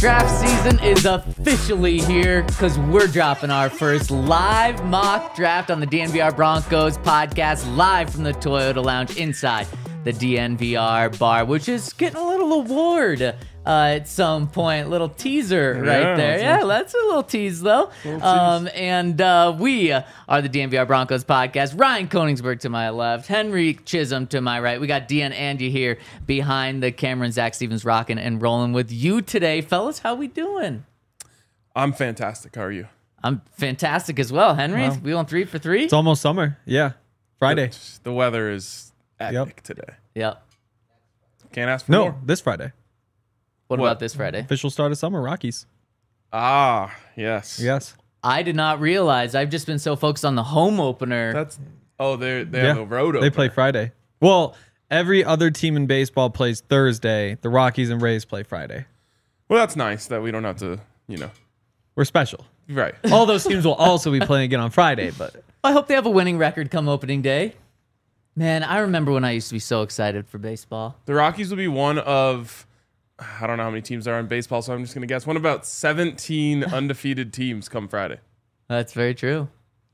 Draft season is officially here because we're dropping our first live mock draft on the DNVR Broncos podcast live from the Toyota Lounge inside the DNVR bar, which is getting a little award at some point. Little teaser right there. Yeah, that's a little tease, though. And we are the DNVR Broncos podcast. Ryan Koenigsberg to my left, Henry Chisholm to my right. We got Dean and Andy here behind the camera, and Zach Stevens rocking and rolling with you today. Fellas, how we doing? I'm fantastic. How are you? I'm fantastic as well. Henry, we on 3 for 3? It's almost summer. Yeah. Friday. The weather is epic today. Yep. Can't ask for more. This Friday. What about this Friday? Official start of summer, Rockies. Ah, yes. Yes. I did not realize. I've just been so focused on the home opener. They have a road opener. They play Friday. Well, every other team in baseball plays Thursday. The Rockies and Rays play Friday. Well, that's nice that we don't have to, We're special. Right. All those teams will also be playing again on Friday, but I hope they have a winning record come opening day. Man, I remember when I used to be so excited for baseball. The Rockies will be one of, I don't know how many teams there are in baseball, so I'm just going to guess, one of about 17 undefeated teams come Friday. That's very true.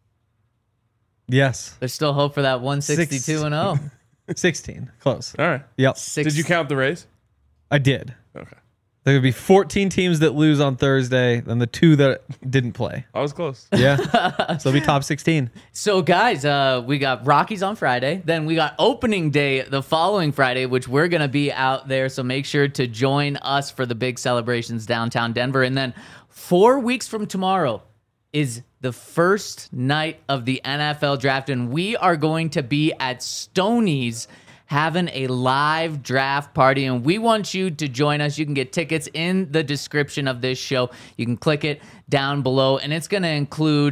yes. There's still hope for that 162-0. 16. Close. All right. Yep. Did you count the Rays? I did. Okay. There would be 14 teams that lose on Thursday, then the 2 that didn't play. I was close. Yeah. So it'll be top 16. So, guys, we got Rockies on Friday. Then we got opening day the following Friday, which we're going to be out there. So make sure to join us for the big celebrations downtown Denver. And then 4 weeks from tomorrow is the first night of the NFL draft. And we are going to be at Stoney's having a live draft party, and we want you to join us. You can get tickets in the description of this show. You can click it down below, and it's going to include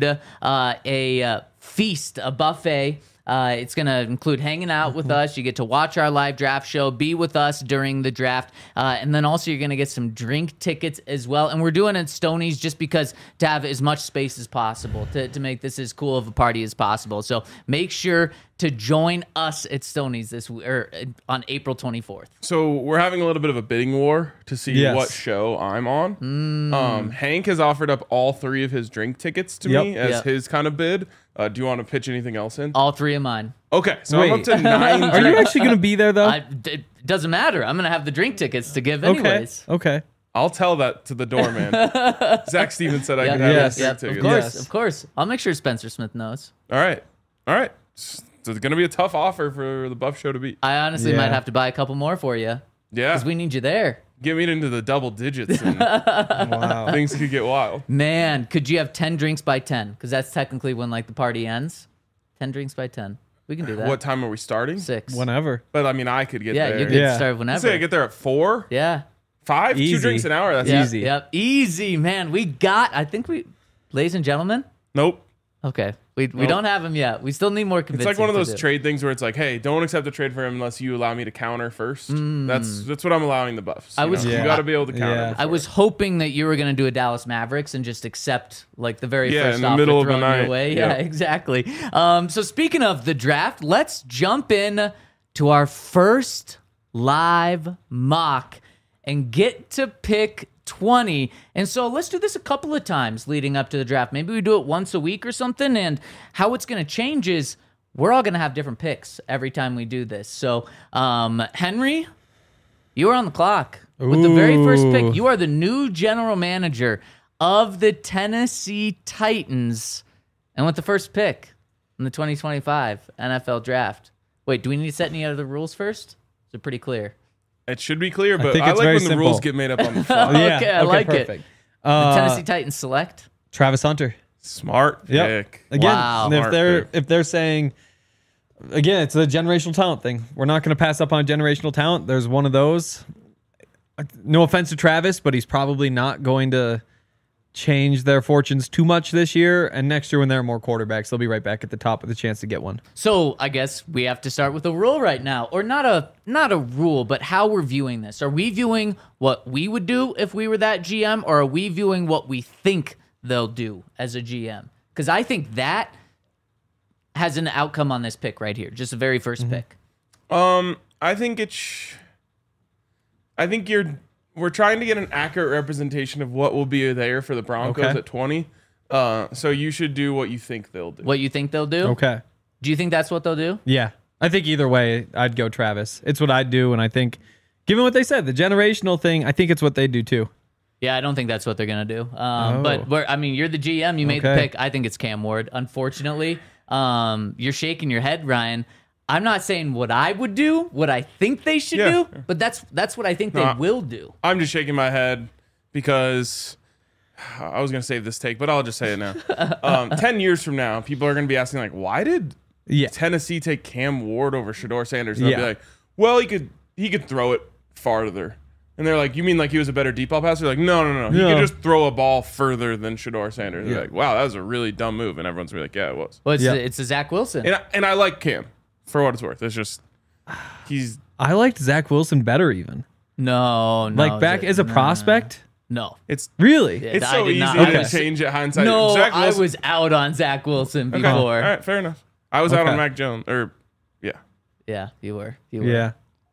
a feast, a buffet. It's going to include hanging out with us. You get to watch our live draft show, be with us during the draft, and then also you're going to get some drink tickets as well. And we're doing it at Stoney's just because to have as much space as possible, to make this as cool of a party as possible. So make sure to join us at Stoney's on April 24th. So we're having a little bit of a bidding war to see what show I'm on. Hank has offered up all 3 of his drink tickets to me as his kind of bid. Do you want to pitch anything else in? All 3 of mine. Okay, so I'm up to 9 Are you actually going to be there, though? It doesn't matter. I'm going to have the drink tickets to give anyways. Okay. I'll tell that to the doorman. Zach Stevens said I could have his drink tickets. Of course. I'll make sure Spencer Smith knows. All right. So it's going to be a tough offer for the Buff Show to beat. I honestly might have to buy a couple more for you. Yeah. Because we need you there. Get me into the double digits and Wow. things could get wild. Man, could you have 10 drinks by 10? Because that's technically when the party ends. 10 drinks by 10. We can do that. What time are we starting? 6. Whenever. But I mean, I could get Yeah, there. you could start whenever. Say I get there at 4? Yeah. 5? Easy. 2 drinks an hour? That's Easy. Yep. Easy, man. Ladies and gentlemen. Nope. Okay. We don't have him yet. We still need more It's convincing. like one of to those do. trade things where it's like, hey, don't accept a trade for him unless you allow me to counter first. That's what I'm allowing the Buffs. You got to be able to counter. Yeah. I was hoping that you were going to do a Dallas Mavericks and just accept the very first in the offer middle of the thrown your night. way. Yeah. Yeah, exactly. So speaking of the draft, let's jump in to our first live mock and get to pick 20. And so let's do this a couple of times leading up to the draft. Maybe we do it once a week or something. And how it's going to change is we're all going to have different picks every time we do this. So, Henry, you are on the clock with the very first pick. You are the new general manager of the Tennessee Titans. And with the first pick in the 2025 NFL draft. Wait, do we need to set any other rules first? Is it pretty clear? It should be clear, but think I it's like very when the rules simple. get made up on the fly. Yeah. Okay, I like it. perfect. The Tennessee Titans select. Travis Hunter. Smart Yep. pick. Again, Wow. if they're saying, again, it's a generational talent thing. We're not going to pass up on generational talent. There's one of those. No offense to Travis, but he's probably not going to change their fortunes too much this year. And next year when there are more quarterbacks, they'll be right back at the top with a chance to get one. So I guess we have to start with a rule right now, or not a rule, but how we're viewing this. Are we viewing what we would do if we were that GM, or are we viewing what we think they'll do as a GM? Because I think that has an outcome on this pick right here, just the very first pick. I think we're trying to get an accurate representation of what will be there for the Broncos at 20. So you should do what you think they'll do. What you think they'll do? Okay. Do you think that's what they'll do? Yeah. I think either way, I'd go Travis. It's what I'd do, and I think, given what they said, the generational thing, I think it's what they do too. Yeah, I don't think that's what they're going to do. But you're the GM. You made the pick. I think it's Cam Ward. Unfortunately, you're shaking your head, Ryan. I'm not saying what I would do, what I think they should do, but that's what I think they will do. I'm just shaking my head because I was going to save this take, but I'll just say it now. 10 years from now, people are going to be asking, like, why did Tennessee take Cam Ward over Shedeur Sanders? And they'll be like, well, he could throw it farther. And they're like, you mean like he was a better deep ball passer? Like, no. He could just throw a ball further than Shedeur Sanders. They're like, wow, that was a really dumb move. And everyone's gonna be like, yeah, it was. Well, it's a Zach Wilson. And I like Cam for what it's worth. It's just I liked Zach Wilson better even. No. Like back as a prospect? No. It's really? It's so easy to change it hindsight. No, I was out on Zach Wilson before. All right, fair enough. I was out on Mac Jones. Yeah, you were. Yeah.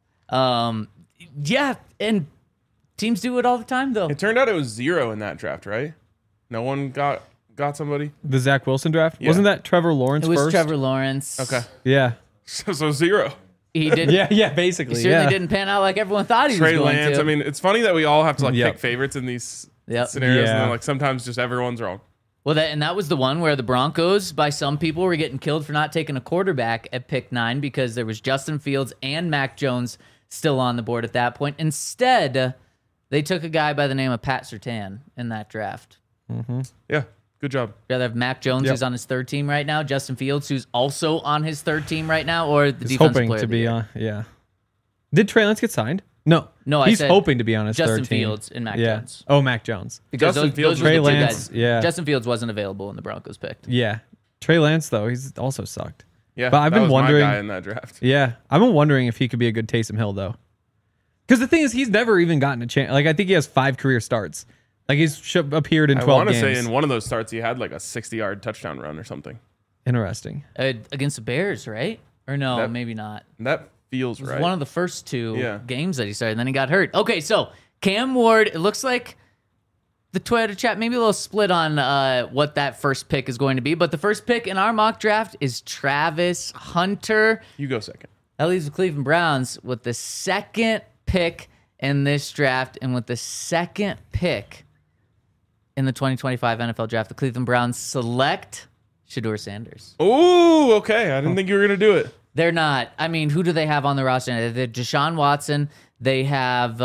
Yeah, and teams do it all the time, though. It turned out it was 0 in that draft, right? No one got somebody? The Zach Wilson draft? Yeah. Wasn't that Trevor Lawrence first? It was Trevor Lawrence. Okay. Yeah. So 0. He did. Yeah, basically. He certainly didn't pan out like everyone thought he was going Lance, to. I mean, it's funny that we all have to pick favorites in these scenarios, and then like sometimes just everyone's wrong. Well, that was the one where the Broncos, by some people, were getting killed for not taking a quarterback at pick 9 because there was Justin Fields and Mac Jones still on the board at that point. Instead, they took a guy by the name of Pat Surtain in that draft. Mm-hmm. Yeah, good job. Rather have Mac Jones, who's on his 3rd team right now, Justin Fields, who's also on his 3rd team right now, or the defensive hoping player to of the be year. on. Yeah. Did Trey Lance get signed? No, he's hoping to be on his 3rd team. Justin Fields and Mac Jones. Oh, Mac Jones. Because Justin Fields, Trey Lance. Yeah. Justin Fields wasn't available when the Broncos picked. Yeah. Trey Lance though, he's also sucked. Yeah, but I've been wondering. My guy in that draft. Yeah, I've been wondering if he could be a good Taysom Hill though. Because the thing is, he's never even gotten a chance. Like I think he has 5 career starts. Like he's appeared in 12 games. I want to say in one of those starts he had like a 60-yard touchdown run or something. Interesting. Against the Bears, right? Or no, maybe not. That feels it was right. One of the first 2 games that he started, and then he got hurt. Okay, so Cam Ward, it looks like the Twitter chat maybe a little split on what that first pick is going to be, but the first pick in our mock draft is Travis Hunter. You go second. That leaves the Cleveland Browns with the 2nd pick in this draft, and with the 2nd pick in the 2025 NFL draft, the Cleveland Browns select Shedeur Sanders. Oh, okay. I didn't think you were going to do it. They're not. I mean, who do they have on the roster? They're Deshaun Watson. They have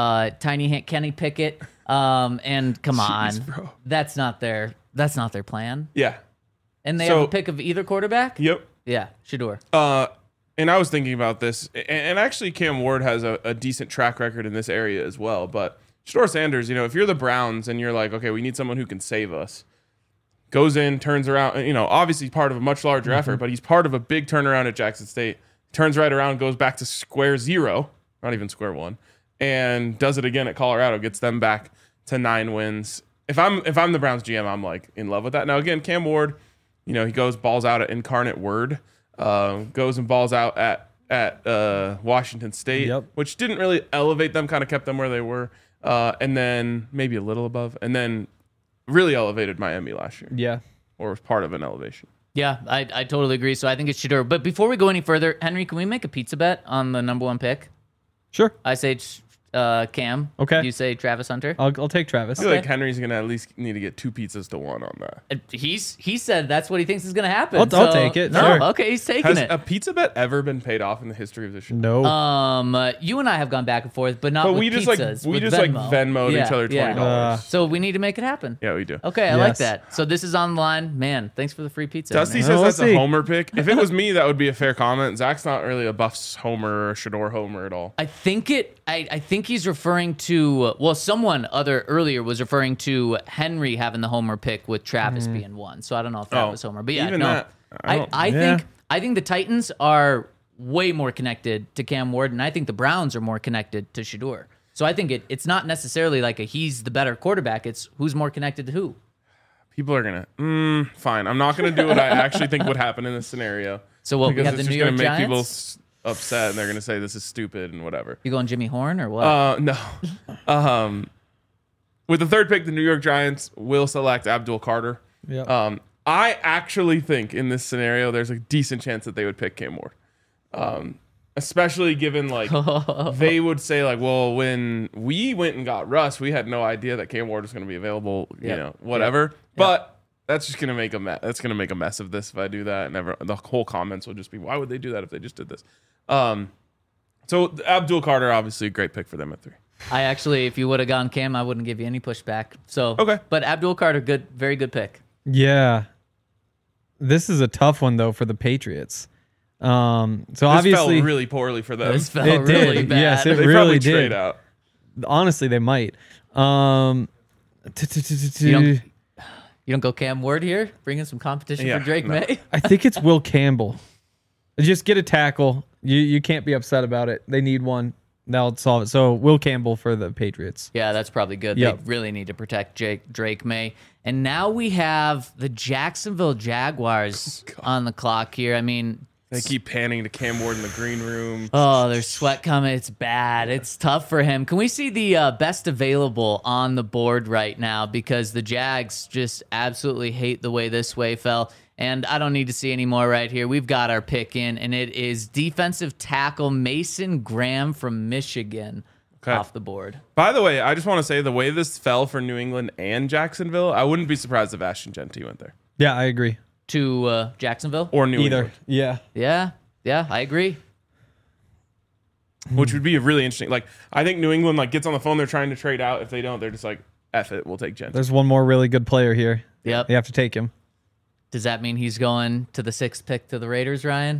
Tiny Kenny Pickett. And come on, bro. That's not their plan. Yeah. And they have a pick of either quarterback? Yep. Yeah, Shedeur. And I was thinking about this, and actually Cam Ward has a decent track record in this area as well. But Shedeur Sanders, if you're the Browns and you're like, okay, we need someone who can save us, goes in, turns around, obviously part of a much larger effort, but he's part of a big turnaround at Jackson State, turns right around, goes back to square 0, not even square 1, and does it again at Colorado, gets them back to 9 wins. If I'm the Browns GM, I'm like in love with that. Now again, Cam Ward, he goes balls out at Incarnate Word, goes and balls out at Washington State, which didn't really elevate them, kind of kept them where they were, and then maybe a little above, and then really elevated Miami last year. Yeah. Or was part of an elevation. Yeah, I totally agree. So I think it's Shedeur. But before we go any further, Henry, can we make a pizza bet on the number 1 pick? Sure. I say Cam. Okay. You say Travis Hunter? I'll take Travis. I feel like Henry's going to at least need to get 2 pizzas to 1 on that. He said that's what he thinks is going to happen. I'll take it. No, sure. Okay, he's taking it. Has a pizza bet ever been paid off in the history of the show? No. You and I have gone back and forth, but not with we just pizzas. We just Venmo'd each other $20. So we need to make it happen. Yeah, we do. Okay, I like that. So this is online. Man, thanks for the free pizza. Dusty says that's a homer pick. If it was me, that would be a fair comment. Zach's not really a Buffs homer or Shedeur homer at all. I think he's referring to, someone earlier was referring to Henry having the homer pick with Travis being 1. So I don't know if that was homer. But yeah, even no. That, I think the Titans are way more connected to Cam Ward, and I think the Browns are more connected to Shedeur. So I think it's not necessarily like he's the better quarterback. It's who's more connected to who. People are gonna fine. I'm not gonna do what I actually think would happen in this scenario. So we have the New York Giants. Make people upset, and they're gonna say this is stupid and whatever. You going Jimmy Horn or what? No. With the third pick, the New York Giants will select Abdul Carter. Yeah. I actually think in this scenario, there's a decent chance that they would pick Cam Ward. Especially given like they would say like, well, when we went and got Russ, we had no idea that Cam Ward was going to be available, you know, whatever. But that's just going to make a mess. That's going to make a mess of this if I do that. And the whole comments will just be, why would they do that if they just did this? So Abdul Carter, obviously a great pick for them at 3. I actually, if you would have gone Cam, I wouldn't give you any pushback. So Okay. But Abdul Carter, very good pick. Yeah. This is a tough one though for the Patriots. So This obviously fell really poorly for them. This felt It did. really bad. Yes, it They really probably did. trade out. honestly they might. You don't go Cam Ward here? Bring in some competition Yeah, for Drake no. May? I think it's Will Campbell. Just get a tackle. You can't be upset about it. They need one. That'll solve it. So Will Campbell for the Patriots. Yeah, that's probably good. Yep. They really need to protect Drake May. And now we have the Jacksonville Jaguars on the clock here. I mean, They keep panning to Cam Ward in the green room. oh, there's sweat coming. It's bad. It's tough for him. Can we see the best available on the board right now? Because the Jags just absolutely hate the way this way fell. And I don't need to see any more right here. We've got our pick in, and it is defensive tackle Mason Graham from Michigan off the board. By the way, I just want to say the way this fell for New England and Jacksonville, I wouldn't be surprised if Ashton Genty went there. Yeah, I agree. To Jacksonville? Or New Either. England. Yeah. Yeah, I agree. Which would be really interesting. Like, I think New England like gets on the phone, they're trying to trade out. If they don't, they're just like, F it, we'll take Genty. There's one more really good player here. Yep. They have to take him. Does that mean he's going to the 6th pick to the Raiders, Ryan?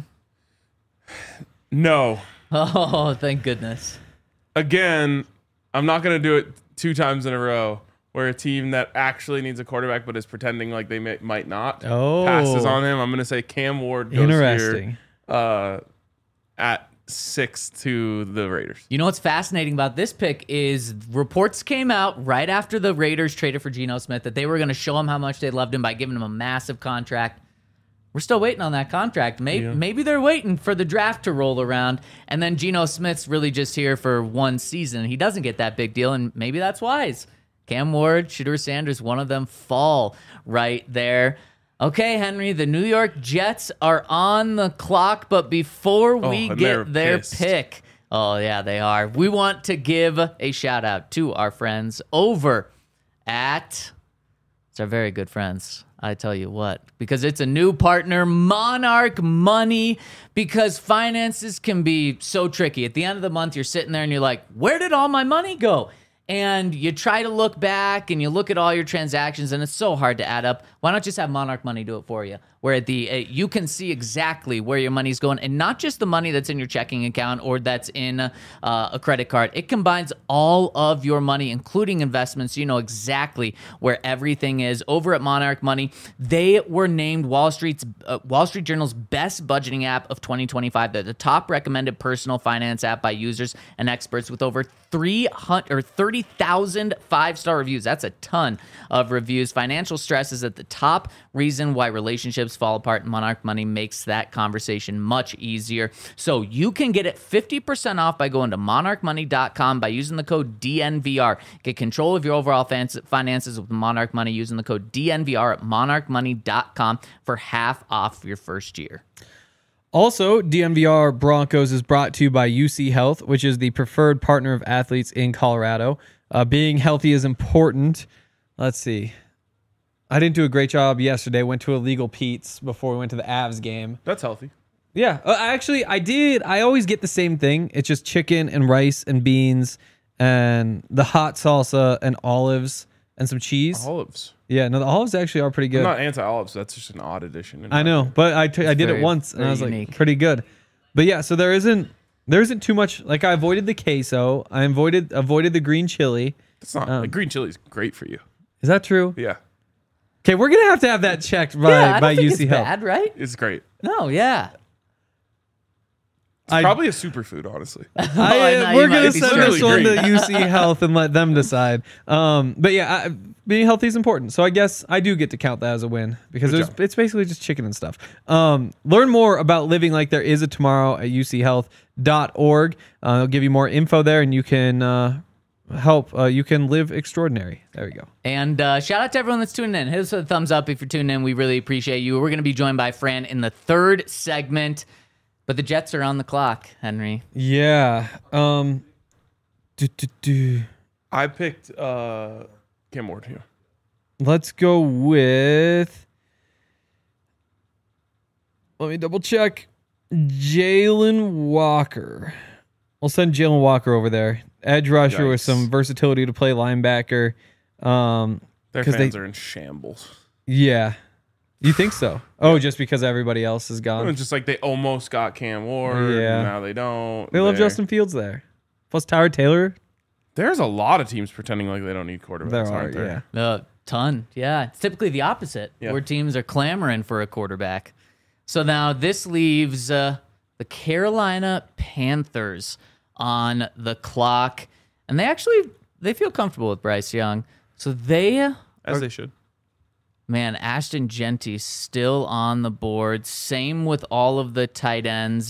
No. Oh, thank goodness. Again, I'm not going to do it 2 times in a row where a team that actually needs a quarterback but is pretending like they might not passes on him. I'm going to say Cam Ward goes Interesting. here at 6 to the Raiders. You know what's fascinating about this pick is reports came out right after the Raiders traded for Geno Smith that they were going to show him how much they loved him by giving him a massive contract. We're still waiting on that contract. Maybe they're waiting for the draft to roll around, and then Geno Smith's really just here for one season. He doesn't get that big deal, and maybe that's wise. Cam Ward, Shedeur Sanders, one of them fall right there. Okay, Henry, the New York Jets are on the clock, but before we and they're get their pissed. pick, oh, yeah, they are. We want to give a shout out to our friends over at, it's our very good friends. I tell you what, because it's a new partner, Monarch Money, because finances can be so tricky. At the end of the month, you're sitting there and you're like, where did all my money go? And you try to look back and you look at all your transactions and it's so hard to add up. Why not just have Monarch Money do it for you? Where you can see exactly where your money's going, and not just the money that's in your checking account or that's in a credit card. It combines all of your money, including investments, so you know exactly where everything is. Over at Monarch Money, they were named Wall Street Journal's best budgeting app of 2025. They're the top recommended personal finance app by users and experts with over 30,000 5-star reviews. That's a ton of reviews. Financial stress is at the top reason why relationships fall apart, and Monarch Money makes that conversation much easier. So you can get it 50% off by going to monarchmoney.com by using the code DNVR. Get control of your overall finances with Monarch Money using the code DNVR at monarchmoney.com for half off your first year. Also, DNVR Broncos is brought to you by UC Health, which is the preferred partner of athletes in Colorado. Being healthy is important. Let's see. I didn't do a great job yesterday. Went to Illegal Pete's before we went to the Avs game. That's healthy. Yeah, actually, I did. I always get the same thing. It's just chicken and rice and beans and the hot salsa and olives and some cheese. Olives. Yeah, no, the olives actually are pretty good. I'm not anti-olives. That's just an odd addition. in I my know, opinion. but I did very- it once and I very was like, unique. pretty good. But yeah, so there isn't too much. Like, I avoided the queso. I avoided the green chili. It's not. like, green chili is great for you. Is that true? Yeah, Okay, we're gonna have to have that checked by Yeah, I don't think UC it's Health. bad, right? it's great. No, yeah. It's probably a superfood, honestly. I know you We're might gonna be send serious. this one to Really UC Health and let them decide. But yeah, being healthy is important. So I guess I do get to count that as a win because it's basically just chicken and stuff. Learn more about living like there is a tomorrow at uchealth.org. They'll give you more info there, and you can help. You can live extraordinary. There we go. And shout out to everyone that's tuning in. Hit us with a thumbs up if you're tuning in. We really appreciate you. We're going to be joined by Fran in the third segment, but the Jets are on the clock, Henry. Yeah. I picked Cam Ward here. Let's go with. Let me double check. Jalen Walker. We'll send Jalen Walker over there. Edge rusher with Yikes. some versatility to play linebacker. Their 'cause fans are in shambles. Yeah. You think so? Oh, just because everybody else is gone. It's just like they almost got Cam Ward. Yeah. Now they don't. They love They're- Justin Fields there. Plus Tyler Taylor. There's a lot of teams pretending like they don't need quarterbacks. There are, aren't there? yeah. Ton. Yeah. It's typically the opposite, Yeah. where teams are clamoring for a quarterback. So now this leaves the Carolina Panthers on the clock. And they feel comfortable with Bryce Young. So they, As they should. man, Ashton Genty still on the board. Same with all of the tight ends.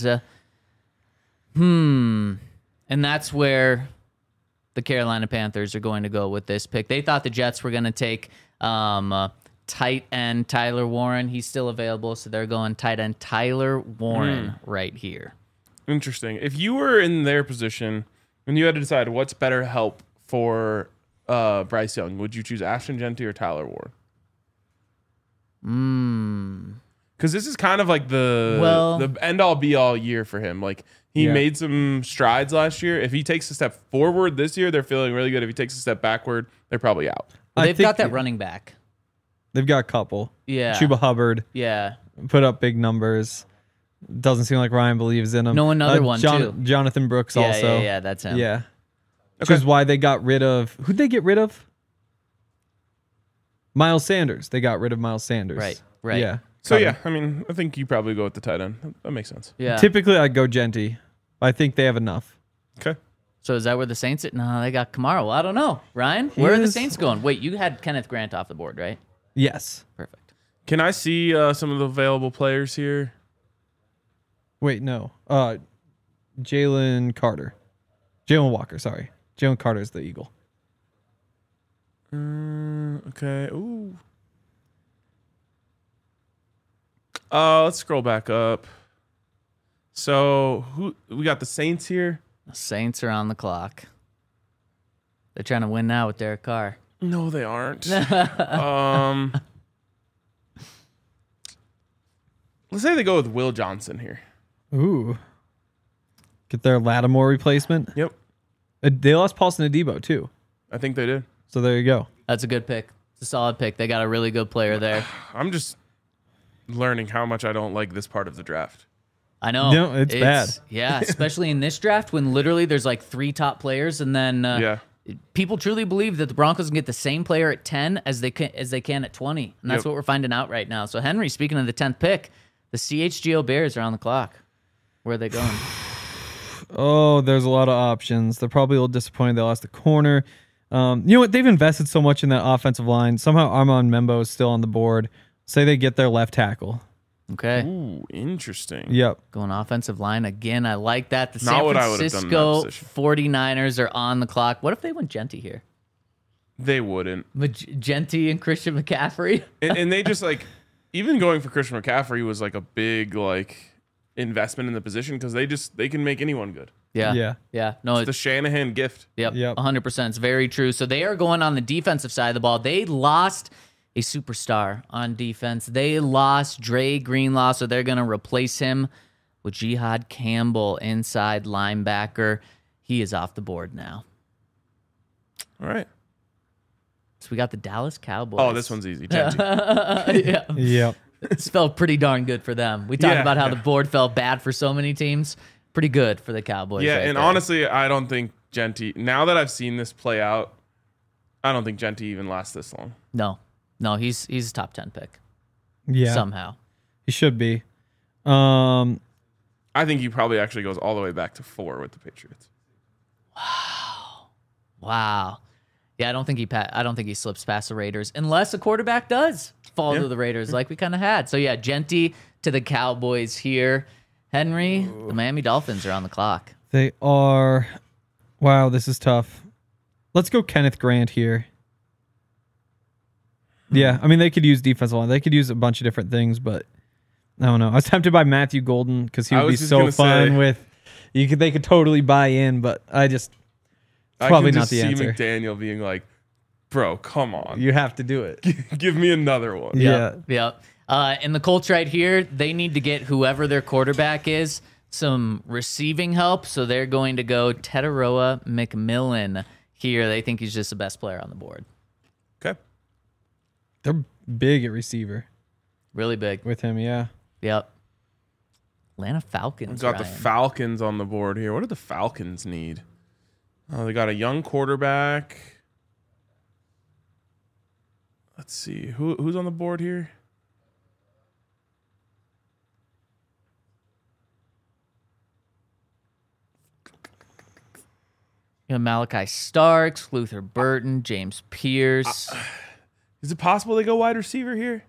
And that's where the Carolina Panthers are going to go with this pick. They thought the Jets were going to take tight end Tyler Warren. He's still available, so they're going tight end Tyler Warren right here. Interesting. If you were in their position and you had to decide what's better help for Bryce Young, would you choose Ashton Genty or Tyler Ward? Because this is kind of like the end all be all year for him. Like he made some strides last year. If he takes a step forward this year, they're feeling really good. If he takes a step backward, they're probably out. Well, I they've think- got that running back. They've got a couple. Yeah. Chuba Hubbard Yeah. put up big numbers. Doesn't seem like Ryan believes in him. No, another one, too. Jonathan Brooks Yeah, also. yeah, that's him. Yeah. Which is why they got rid of. Who'd they get rid of? Miles Sanders. They got rid of Miles Sanders. Right. Yeah. So yeah, I mean, I think you probably go with the tight end. That makes sense. Yeah. Typically, I'd go Genty. I think they have enough. Okay. So is that where the Saints are? No, they got Kamara. Well, I don't know. Ryan, where are the is- Saints going? Wait, you had Kenneth Grant off the board, right? Yes. Perfect. Can I see some of the available players here? Wait, no. Jalen Carter. Jalen Walker, sorry. Jalen Carter is the Eagle. Okay. Ooh. Let's scroll back up. So who we got the Saints here? The Saints are on the clock. They're trying to win now with Derek Carr. No, they aren't. Let's say they go with Will Johnson here. Ooh. Get their Lattimore replacement. Yep. They lost Paulson Adebo, too. I think they did. So there you go. That's a good pick. It's a solid pick. They got a really good player there. I'm just learning how much I don't like this part of the draft. I know. No, it's bad. Yeah, especially in this draft when literally there's like 3 top players, and then Yeah. people truly believe that the Broncos can get the same player at 10 as they can at 20, and that's Yep. what we're finding out right now. So Henry, speaking of the 10th pick, the CHGO Bears are on the clock. Where are they going? Oh, there's a lot of options. They're probably a little disappointed they lost the corner. You know what? They've invested so much in that offensive line. Somehow Armand Membo is still on the board. Say they get their left tackle. Okay. Ooh, interesting. Yep. Going offensive line again. I like that. The Not San what I would've done in that Francisco position. 49ers are on the clock. What if they went Genty here? They wouldn't. Genty and Christian McCaffrey? And they just like even going for Christian McCaffrey was like a big like investment in the position because they can make anyone good. Yeah. Yeah. Yeah. No, The Shanahan gift. Yep, Yep. 100%. It's very true. So they are going on the defensive side of the ball. They lost a superstar on defense. They lost Dre Greenlaw, so they're going to replace him with Jihad Campbell, inside linebacker. He is off the board now. All right. So we got the Dallas Cowboys. Oh, this one's easy. Genty. Yeah. Yep. It's felt pretty darn good for them. We talked Yeah, about how yeah. the board felt bad for so many teams. Pretty good for the Cowboys. Yeah, right and there. honestly, I don't think Genty. Now that I've seen this play out, I don't think Genty even lasts this long. No, he's a top 10 pick Yeah. somehow. He should be. I think he probably actually goes all the way back to 4 with the Patriots. Wow. Yeah, I don't think he slips past the Raiders unless a quarterback does fall to the Raiders like we kind of had. So yeah, Genty to the Cowboys here. Henry, the Miami Dolphins are on the clock. They are. Wow, this is tough. let's go Kenneth Grant here. Yeah, I mean, they could use defensive line. They could use a bunch of different things, but I don't know. I was tempted by Matthew Golden because he would be so fun with. They could totally buy in, but it's probably not the answer. I can just see McDaniel being like, "Bro, come on, you have to do it. Give me another one." Yeah. And the Colts right here, they need to get whoever their quarterback is some receiving help, so they're going to go Tetaroa McMillan here. They think he's just the best player on the board. Okay. They're big at receiver. Really big. With him, yeah. Yep. Atlanta Falcons. We've got the Falcons on the board here. What do the Falcons need? Oh, they got a young quarterback. Let's see. Who's on the board here? You have Malachi Starks, Luther Burton, James Pierce. Is it possible they go wide receiver here?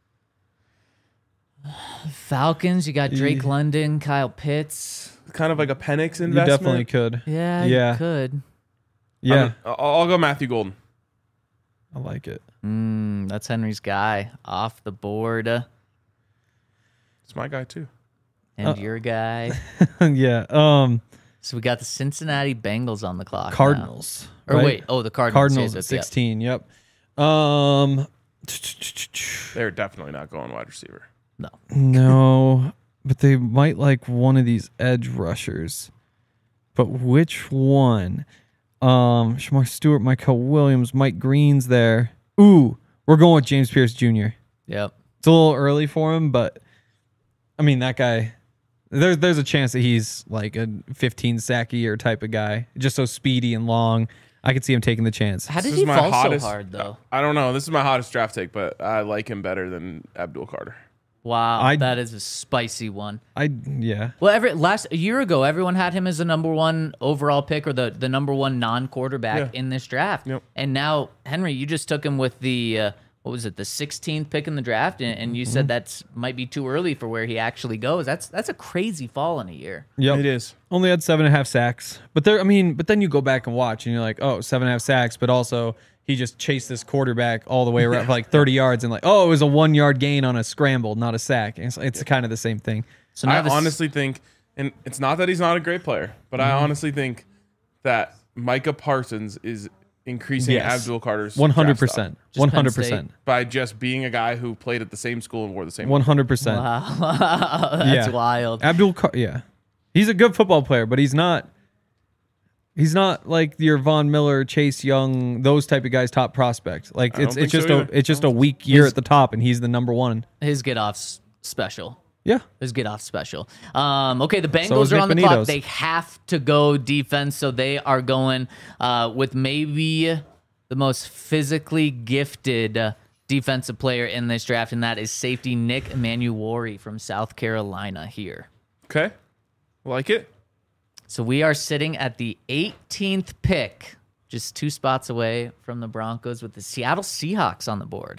Falcons, you got Drake London, Kyle Pitts. Kind of like a Penix investment. You definitely could. Yeah, you could. Yeah. I'll go Matthew Golden. I like it. That's Henry's guy off the board. It's my guy too. And your guy. Yeah. So we got the Cincinnati Bengals on the clock. Cardinals. Now. Or right? wait, the Cardinals. Cardinals at 16. Yep. They're definitely not going wide receiver. No, but they might like one of these edge rushers. But which one? Shamar Stewart, Michael Williams, Mike Green's there. Ooh, we're going with James Pierce Jr. Yep. It's a little early for him, but I mean that guy. There's a chance that he's like a 15 sack a year type of guy, just so speedy and long. I could see him taking the chance. How did he fall so hard though? I don't know. This is my hottest draft take, but I like him better than Abdul Carter. Wow, that is a spicy one. Well, a year ago, everyone had him as the number one overall pick or the number one non-quarterback in this draft. Yep. And now, Henry, you just took him with the what was it, the 16th pick in the draft, and you said that's might be too early for where he actually goes. That's a crazy fall in a year. Yep. It is. Only had 7.5 sacks, but then you go back and watch, and you're like, 7.5 sacks, but also he just chased this quarterback all the way around for like 30 yards, and like, it was a 1 yard gain on a scramble, not a sack. It's kind of the same thing. So I honestly think, and it's not that he's not a great player, but I honestly think that Micah Parsons is increasing Abdul Carter's 100%, 100% by just being a guy who played at the same school and wore the same 100%. Wow, that's wild. He's a good football player, but he's not like your Von Miller, Chase Young, those type of guys, top prospect. Like it's just a weak year at the top, and he's the number one. His get off's special. Yeah. His get off special. Okay, the Bengals are on the clock. They have to go defense, so they are going with maybe the most physically gifted defensive player in this draft, and that is safety Nick Emanuwari from South Carolina here. Okay. Like it. So we are sitting at the 18th pick, just 2 spots away from the Broncos with the Seattle Seahawks on the board.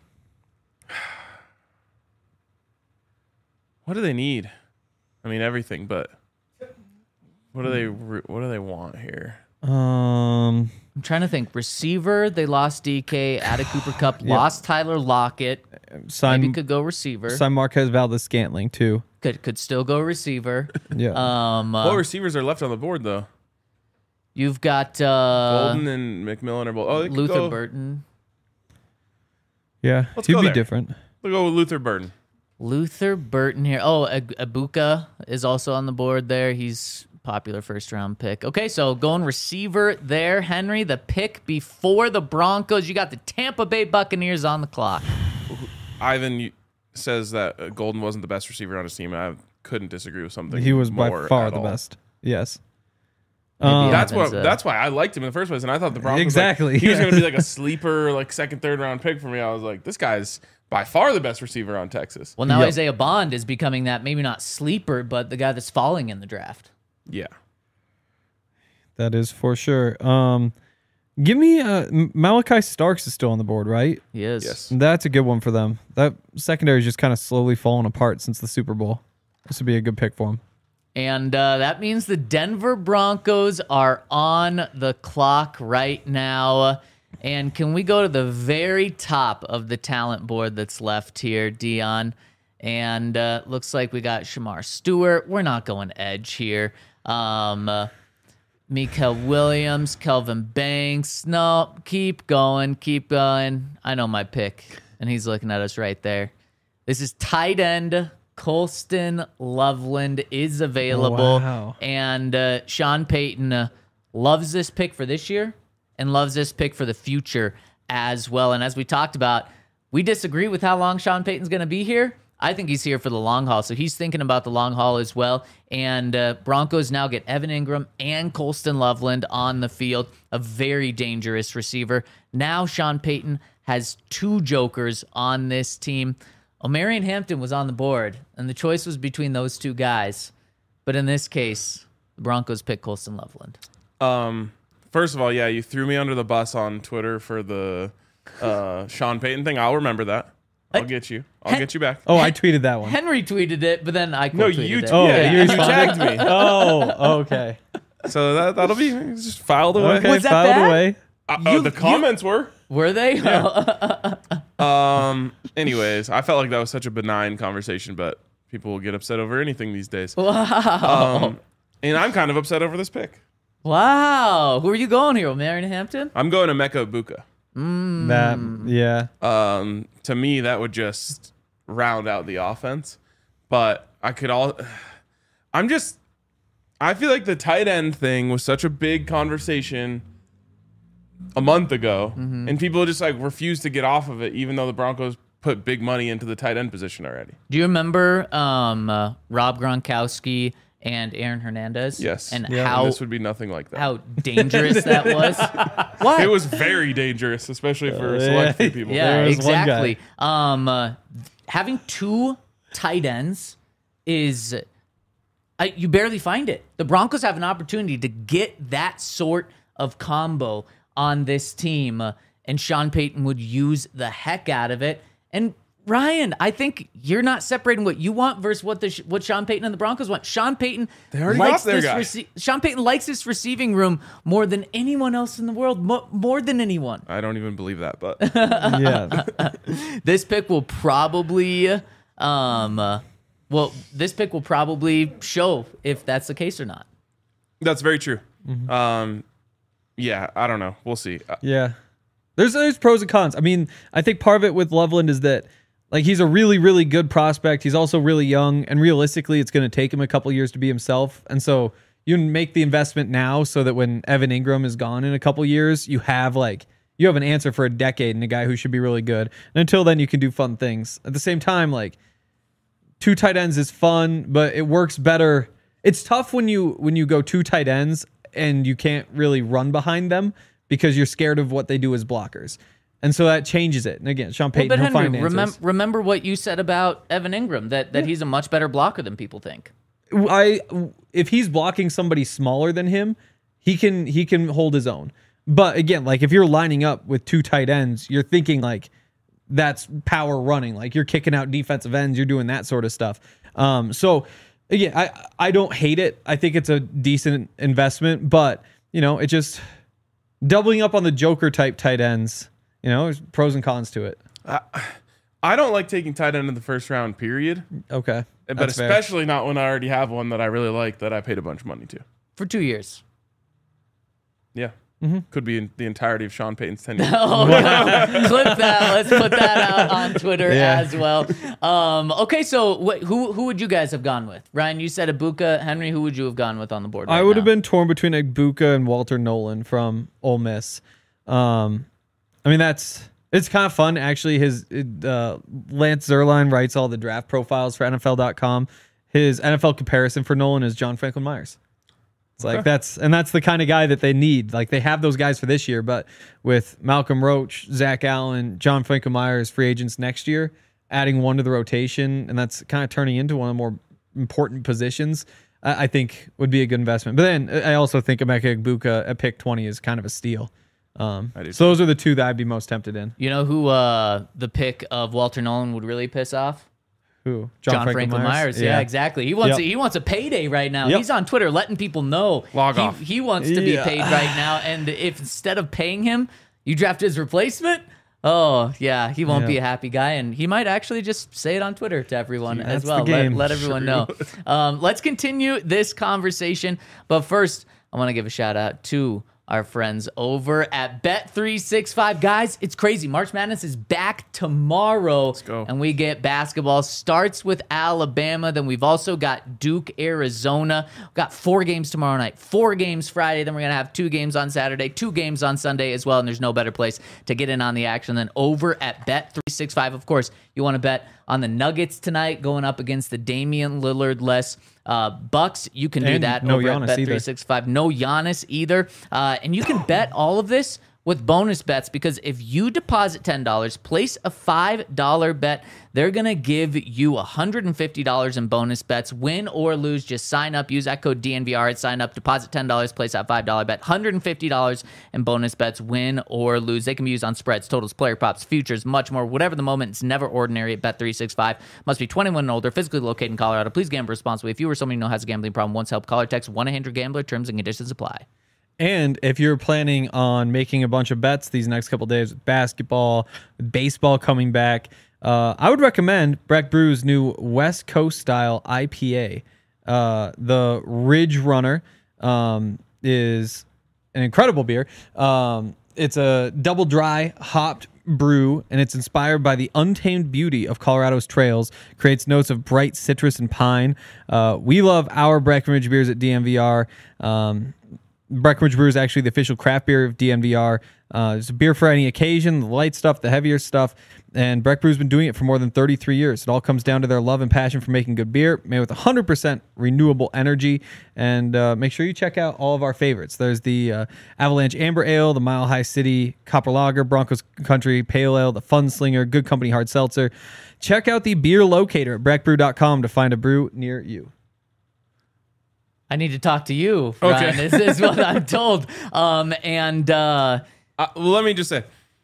What do they need? I mean, everything, but what do they want here? I'm trying to think. Receiver, they lost DK, added Cooper Kupp, lost Tyler Lockett. Maybe could go receiver. Sign Marquez Valdes-Scantling too. Could still go receiver. Yeah. What receivers are left on the board though? You've got Golden and McMillan are both. Luther Burton. Yeah, he'd be different. We'll go with Luther Burton. Luther Burton here. Abuka is also on the board there. He's popular first-round pick. Okay, so going receiver there, Henry. The pick before the Broncos. You got the Tampa Bay Buccaneers on the clock. Ivan says that Golden wasn't the best receiver on his team. I couldn't disagree with something. He was by far the best. Yes. That's why I liked him in the first place, and I thought the Broncos he was going to be like a sleeper, like second, third round pick for me. I was like, this guy's by far the best receiver on Texas. Well, now Isaiah Bond is becoming that maybe not sleeper, but the guy that's falling in the draft. Yeah, that is for sure. Give me Malachi Starks is still on the board, right? He is. Yes, that's a good one for them. That secondary is just kind of slowly falling apart since the Super Bowl. This would be a good pick for him. And that means the Denver Broncos are on the clock right now. And can we go to the very top of the talent board that's left here, Dion? And looks like we got Shamar Stewart. We're not going edge here. Mikael Williams, Kelvin Banks. No, keep going, keep going. I know my pick, and he's looking at us right there. This is tight end. Colston Loveland is available. Wow. And Sean Payton loves this pick for this year and loves this pick for the future as well. And as we talked about, we disagree with how long Sean Payton's going to be here. I think he's here for the long haul, so he's thinking about the long haul as well. And Broncos now get Evan Ingram and Colston Loveland on the field, a very dangerous receiver. Now Sean Payton has two jokers on this team. Omarion Hampton was on the board, and the choice was between those two guys. But in this case, the Broncos picked Colston Loveland. First of all, yeah, you threw me under the bus on Twitter for the Sean Payton thing. I'll remember that. I'll get you. I'll get you back. Oh, I tweeted that one. Henry tweeted it, but then I No, quote tweeted you. it. Oh, yeah, you you responded? tagged me. Oh, okay. So that'll be just filed away. Okay, Was that filed bad? away. The comments were. Were they? Anyways, I felt like that was such a benign conversation, but people will get upset over anything these days. Wow. And I'm kind of upset over this pick. Wow. Who are you going here, Omarion Hampton? I'm going to Mecca Ibuka. Yeah. To me, that would just round out the offense. But I feel like the tight end thing was such a big conversation a month ago, and people just like refuse to get off of it, even though the Broncos put big money into the tight end position already. Do you remember Rob Gronkowski and Aaron Hernandez? Yes. And Yeah. how And this would be nothing like that. how dangerous that was? What? It was very dangerous, especially for a select few people. Yeah, There was one exactly. Having two tight ends is you barely find it. The Broncos have an opportunity to get that sort of combo on this team, and Sean Payton would use the heck out of it. And Ryan, I think you're not separating what you want versus what Sean Payton and the Broncos want. Sean Payton already likes got their this guy. Sean Payton likes this receiving room more than anyone else in the world, more than anyone. I don't even believe that, but Yeah. This pick will probably this pick will probably show if that's the case or not. that's very true. Yeah, I don't know. We'll see. Yeah. There's pros and cons. I mean, I think part of it with Loveland is that like he's a really, really good prospect. He's also really young, and realistically, it's going to take him a couple years to be himself. And so you make the investment now so that when Evan Ingram is gone in a couple years, you have an answer for a decade and a guy who should be really good. And until then, you can do fun things. At the same time, like two tight ends is fun, but it works better. It's tough when you go two tight ends and you can't really run behind them because you're scared of what they do as blockers. And so that changes it. And again, Sean Payton, But he'll find Henry, answers. remember what you said about Evan Ingram, that he's a much better blocker than people think. If he's blocking somebody smaller than him, he can hold his own. But again, like if you're lining up with two tight ends, you're thinking like that's power running. Like you're kicking out defensive ends, you're doing that sort of stuff. So again, I don't hate it. I think it's a decent investment, but it just doubling up on the Joker type tight ends. There's pros and cons to it. I don't like taking tight end in the first round, period. Okay. But That's fair. especially not when I already have one that I really like that I paid a bunch of money to. For 2 years. Yeah. Could be in the entirety of Sean Payton's tenure. Oh, yeah. Clip that. Let's put that out on Twitter Yeah. as well. Okay, so who would you guys have gone with? Ryan, you said Ibuka. Henry, who would you have gone with on the board? I right would have now? been torn between Ibuka and Walter Nolan from Ole Miss. I mean, it's kind of fun actually. Lance Zerline writes all the draft profiles for NFL.com. His NFL comparison for Nolan is John Franklin Myers. It's like that's the kind of guy that they need. Like they have those guys for this year, but with Malcolm Roach, Zach Allen, John Franklin Myers free agents next year, adding one to the rotation, and that's kind of turning into one of the more important positions. I think would be a good investment. But then I also think Emeka Egbuka at pick 20 is kind of a steal. So those are the two that I'd be most tempted in. You know who the pick of Walter Nolan would really piss off? Who? John Franklin Myers. Yeah, exactly. He wants he wants a payday right now. Yep. He's on Twitter letting people know off. He wants to be paid right now. And if instead of paying him, you draft his replacement, oh yeah, he won't be a happy guy, and he might actually just say it on Twitter to everyone as well. Let everyone know. Let's continue this conversation, but first, I want to give a shout out to our friends over at Bet365. Guys, it's crazy. March Madness is back tomorrow. Let's go. And we get basketball. Starts with Alabama. Then we've also got Duke, Arizona. We've got 4 games tomorrow night, 4 games Friday. Then we're going to have 2 games on Saturday, 2 games on Sunday as well. And there's no better place to get in on the action than over at Bet365. Of course, you want to bet on the Nuggets tonight going up against the Damian Lillard-less Bucks. You can do that over at Bet365. No Giannis either. And you can bet all of this with bonus bets, because if you deposit $10, place a $5 bet, they're going to give you $150 in bonus bets. Win or lose, just sign up. Use that code DNVR at sign up. Deposit $10, place that $5 bet. $150 in bonus bets, win or lose. They can be used on spreads, totals, player props, futures, much more. Whatever the moment, it's never ordinary at Bet365. Must be 21 and older, physically located in Colorado. Please gamble responsibly. If you or someone you know has a gambling problem, once help, call or text 1-800-GAMBLER. Terms and conditions apply. And if you're planning on making a bunch of bets these next couple days with basketball, baseball coming back, I would recommend Breck Brew's new West Coast style IPA. The Ridge Runner is an incredible beer. It's a double dry hopped brew, and it's inspired by the untamed beauty of Colorado's trails. Creates notes of bright citrus and pine. We love our Breckenridge beers at DNVR. Breckenridge Brew is actually the official craft beer of DNVR. It's a beer for any occasion, the light stuff, the heavier stuff. And Breck Brew's been doing it for more than 33 years. It all comes down to their love and passion for making good beer, made with 100% renewable energy. And make sure you check out all of our favorites. There's the Avalanche Amber Ale, the Mile High City Copper Lager, Broncos Country Pale Ale, the Fun Slinger, Good Company Hard Seltzer. Check out the beer locator at breckbrew.com to find a brew near you. I need to talk to you, Ryan. Okay. This is what I'm told. Well, let me just say,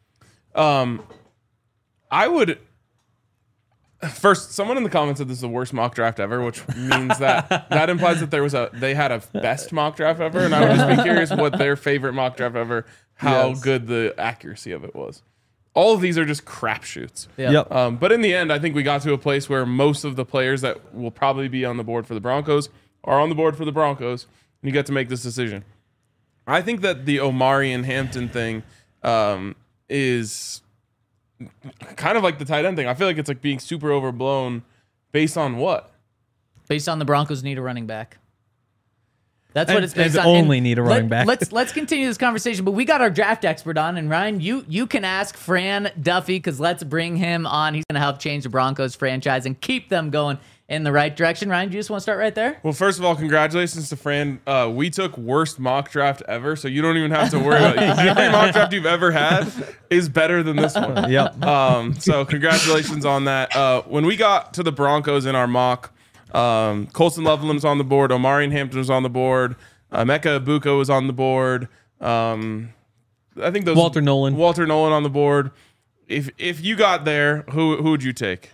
I would first. Someone in the comments said this is the worst mock draft ever, which means that implies that they had a best mock draft ever, and I would just be curious what their favorite mock draft ever, how good the accuracy of it was. All of these are just crapshoots. Yep. But in the end, I think we got to a place where most of the players that will probably be on the board for the Broncos are on the board for the Broncos, and you get to make this decision. I think that the Omari and Hampton thing is kind of like the tight end thing. I feel like it's like being super overblown based on what? Based on the Broncos need a running back. That's what it's based on. Only need a running back. Let's continue this conversation, but we got our draft expert on, and Ryan, you can ask Fran Duffy, because let's bring him on. He's going to help change the Broncos franchise and keep them going in the right direction. Ryan, do you just want to start right there? Well, first of all, congratulations to Fran. We took worst mock draft ever, so you don't even have to worry about it. Every mock draft you've ever had is better than this one. Yep. So congratulations on that. When we got to the Broncos in our mock, Colston Loveland's on the board, Omari and Hampton was on the board, Mecca Ibuka was on the board. I think those Walter Nolan on the board. If you got there, who would you take?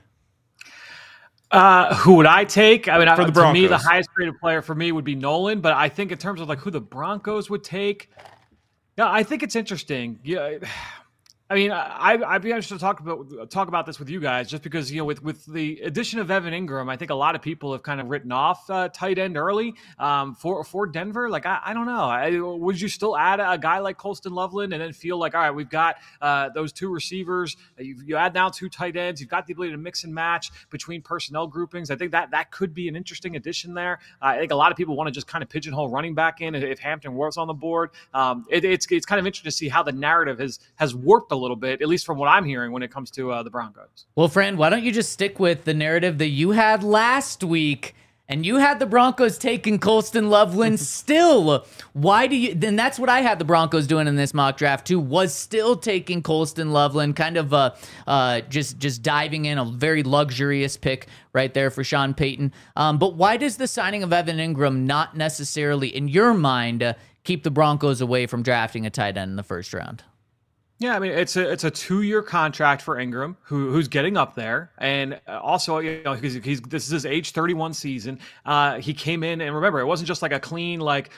Who would I take? I mean, For the to me, the Broncos. highest rated player for me would be Nolan. But I think in terms of like who the Broncos would take, yeah, I think it's interesting. Yeah, I mean, I'd be interested to talk about this with you guys, just because, you know, with the addition of Evan Ingram, I think a lot of people have kind of written off tight end early for Denver. Like, I don't know. Would you still add a guy like Colston Loveland and then feel like, all right, we've got those 2 receivers, you add now 2 tight ends, you've got the ability to mix and match between personnel groupings. I think that could be an interesting addition there. I think a lot of people want to just kind of pigeonhole running back in if Hampton was on the board. It's kind of interesting to see how the narrative has warped a little bit, at least from what I'm hearing when it comes to the Broncos. Well, Fran, why don't you just stick with the narrative that you had last week, and you had the Broncos taking Colston Loveland still. Why do you? Then that's what I had the Broncos doing in this mock draft too, was still taking Colston Loveland, kind of just diving in, a very luxurious pick right there for Sean Payton. But why does the signing of Evan Ingram not necessarily, in your mind, keep the Broncos away from drafting a tight end in the first round? Yeah, I mean it's a 2-year contract for Ingram, who's getting up there, and also because this is his age 31 season. He came in, and remember, it wasn't just like a clean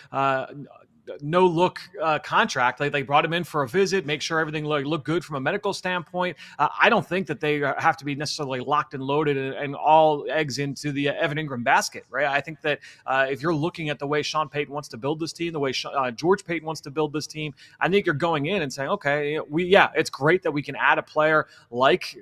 no look contract. They brought him in for a visit, make sure everything looked good from a medical standpoint. I don't think that they have to be necessarily locked and loaded and all eggs into the Evan Ingram basket, right? I think that if you're looking at the way Sean Payton wants to build this team, the way George Payton wants to build this team, I think you're going in and saying, okay, it's great that we can add a player like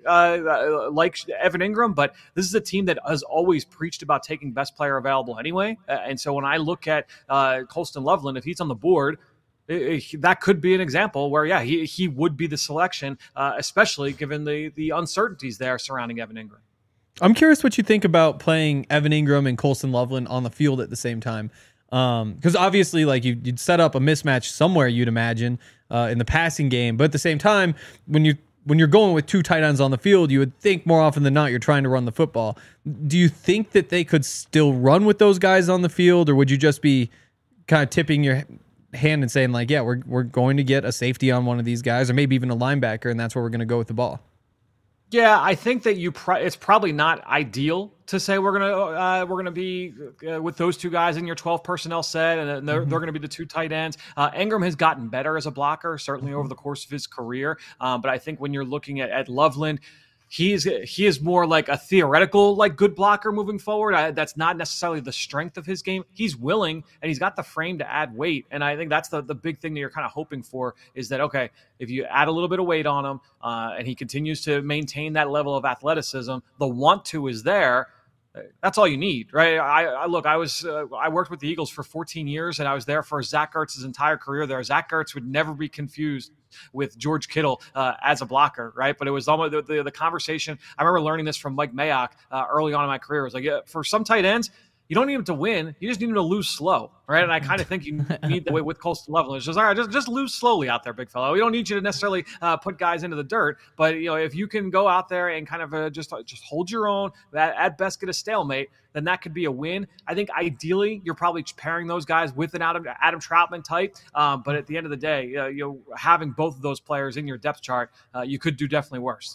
Evan Ingram, but this is a team that has always preached about taking best player available anyway. And so when I look at Colston Loveland, if he's on the board, that could be an example where, he would be the selection, especially given the uncertainties there surrounding Evan Ingram. I'm curious what you think about playing Evan Ingram and Colston Loveland on the field at the same time. Because obviously, like you'd set up a mismatch somewhere, you'd imagine, in the passing game. But at the same time, when you're going with 2 tight ends on the field, you would think more often than not you're trying to run the football. Do you think that they could still run with those guys on the field, or would you just be kind of tipping your hand and saying like, we're going to get a safety on one of these guys, or maybe even a linebacker, and that's where we're going to go with the ball? Yeah, I think that it's probably not ideal to say we're gonna be with those 2 guys in your 12 personnel set, and they're going to be the 2 tight ends. Ingram has gotten better as a blocker, certainly over the course of his career, but I think when you're looking at Loveland, he is more like a theoretical good blocker moving forward. That's not necessarily the strength of his game. He's willing, and he's got the frame to add weight, and I think that's the big thing that you're kind of hoping for, is that, okay, if you add a little bit of weight on him and he continues to maintain that level of athleticism, the want to is there. That's all you need, right? I worked with the Eagles for 14 years, and I was there for Zach Ertz's entire career there. Zach Ertz would never be confused with George Kittle as a blocker, right? But it was almost the conversation. I remember learning this from Mike Mayock early on in my career. It was like, for some tight ends, you don't need them to win. You just need them to lose slow, right? And I kind of think you need that way with Colston Loveland. It's just, all right, just lose slowly out there, big fella. We don't need you to necessarily put guys into the dirt, but if you can go out there and kind of just hold your own, at best get a stalemate, then that could be a win. I think ideally you're probably pairing those guys with an Adam Troutman type, but at the end of the day, having both of those players in your depth chart, you could do definitely worse.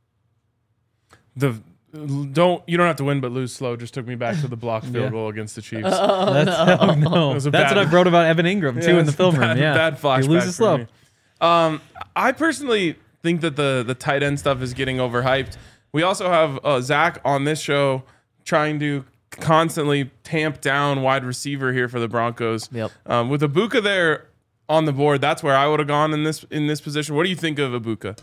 You don't have to win, but lose slow. Just took me back to the blocked field goal against the Chiefs. That's what I wrote about Evan Ingram too in the film room. Yeah, bad flashback. He loses slow. I personally think that the tight end stuff is getting overhyped. We also have Zach on this show trying to constantly tamp down wide receiver here for the Broncos. Yep. With Ibuka there on the board, that's where I would have gone in this position. What do you think of Ibuka?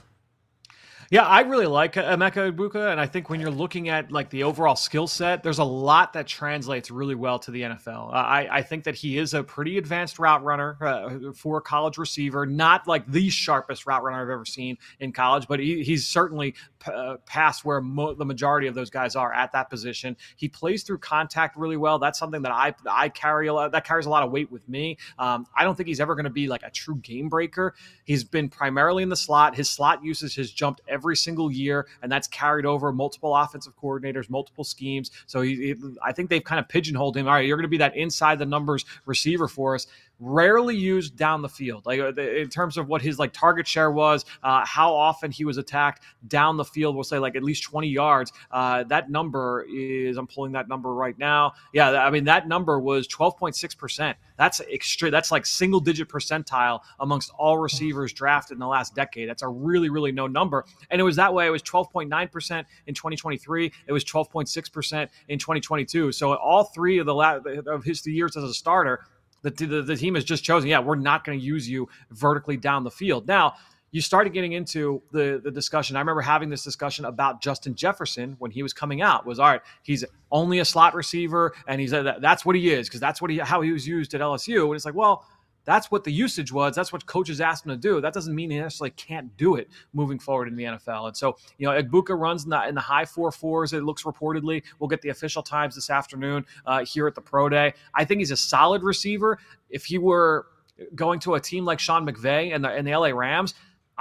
Yeah, I really like Emeka Egbuka, and I think when you're looking at the overall skill set, there's a lot that translates really well to the NFL. I think that he is a pretty advanced route runner for a college receiver, not like the sharpest route runner I've ever seen in college, but he's certainly past where the majority of those guys are at that position. He plays through contact really well. That's something that I carry a lot. That carries a lot of weight with me. I don't think he's ever going to be like a true game breaker. He's been primarily in the slot. His slot usage has jumped every single year, and that's carried over multiple offensive coordinators, multiple schemes. So I think they've kind of pigeonholed him. All right, you're going to be that inside the numbers receiver for us. Rarely used down the field, in terms of what his target share was, how often he was attacked down the field. We'll say at least 20 yards. That number is, I'm pulling that number right now. Yeah, I mean that number was 12.6%. That's extreme. That's single digit percentile amongst all receivers drafted in the last decade. That's a really, really low number. And it was that way. It was 12.9% in 2023. It was 12.6% in 2022. So all three of his years as a starter, the team has just chosen, we're not going to use you vertically down the field. Now, you started getting into the discussion. I remember having this discussion about Justin Jefferson when he was coming out. Was, all right, he's only a slot receiver, and that's what he is, because that's how he was used at LSU. And it's well, that's what the usage was. That's what coaches asked him to do. That doesn't mean he necessarily can't do it moving forward in the NFL. And so, Egbuka runs in the high 4.4s. It looks reportedly. We'll get the official times this afternoon here at the Pro Day. I think he's a solid receiver. If he were going to a team like Sean McVay and the LA Rams,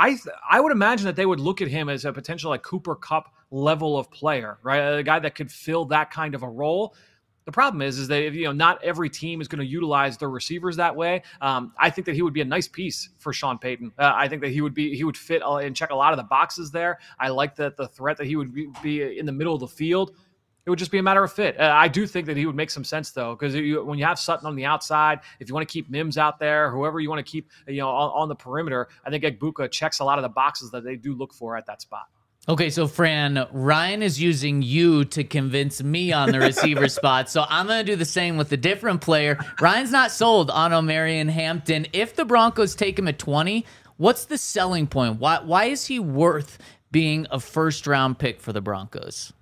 I would imagine that they would look at him as a potential Cooper Kupp level of player, right? A guy that could fill that kind of a role. The problem is that not every team is going to utilize their receivers that way. I think that he would be a nice piece for Sean Payton. I think that he would fit and check a lot of the boxes there. I like the threat that he would be in the middle of the field. It would just be a matter of fit. I do think that he would make some sense, though, because when you have Sutton on the outside, if you want to keep Mims out there, whoever you want to keep on the perimeter, I think Egbuka checks a lot of the boxes that they do look for at that spot. Okay, so Fran, Ryan is using you to convince me on the receiver spot, so I'm going to do the same with a different player. Ryan's not sold on Omarion Hampton. If the Broncos take him at 20, what's the selling point? Why is he worth being a first-round pick for the Broncos?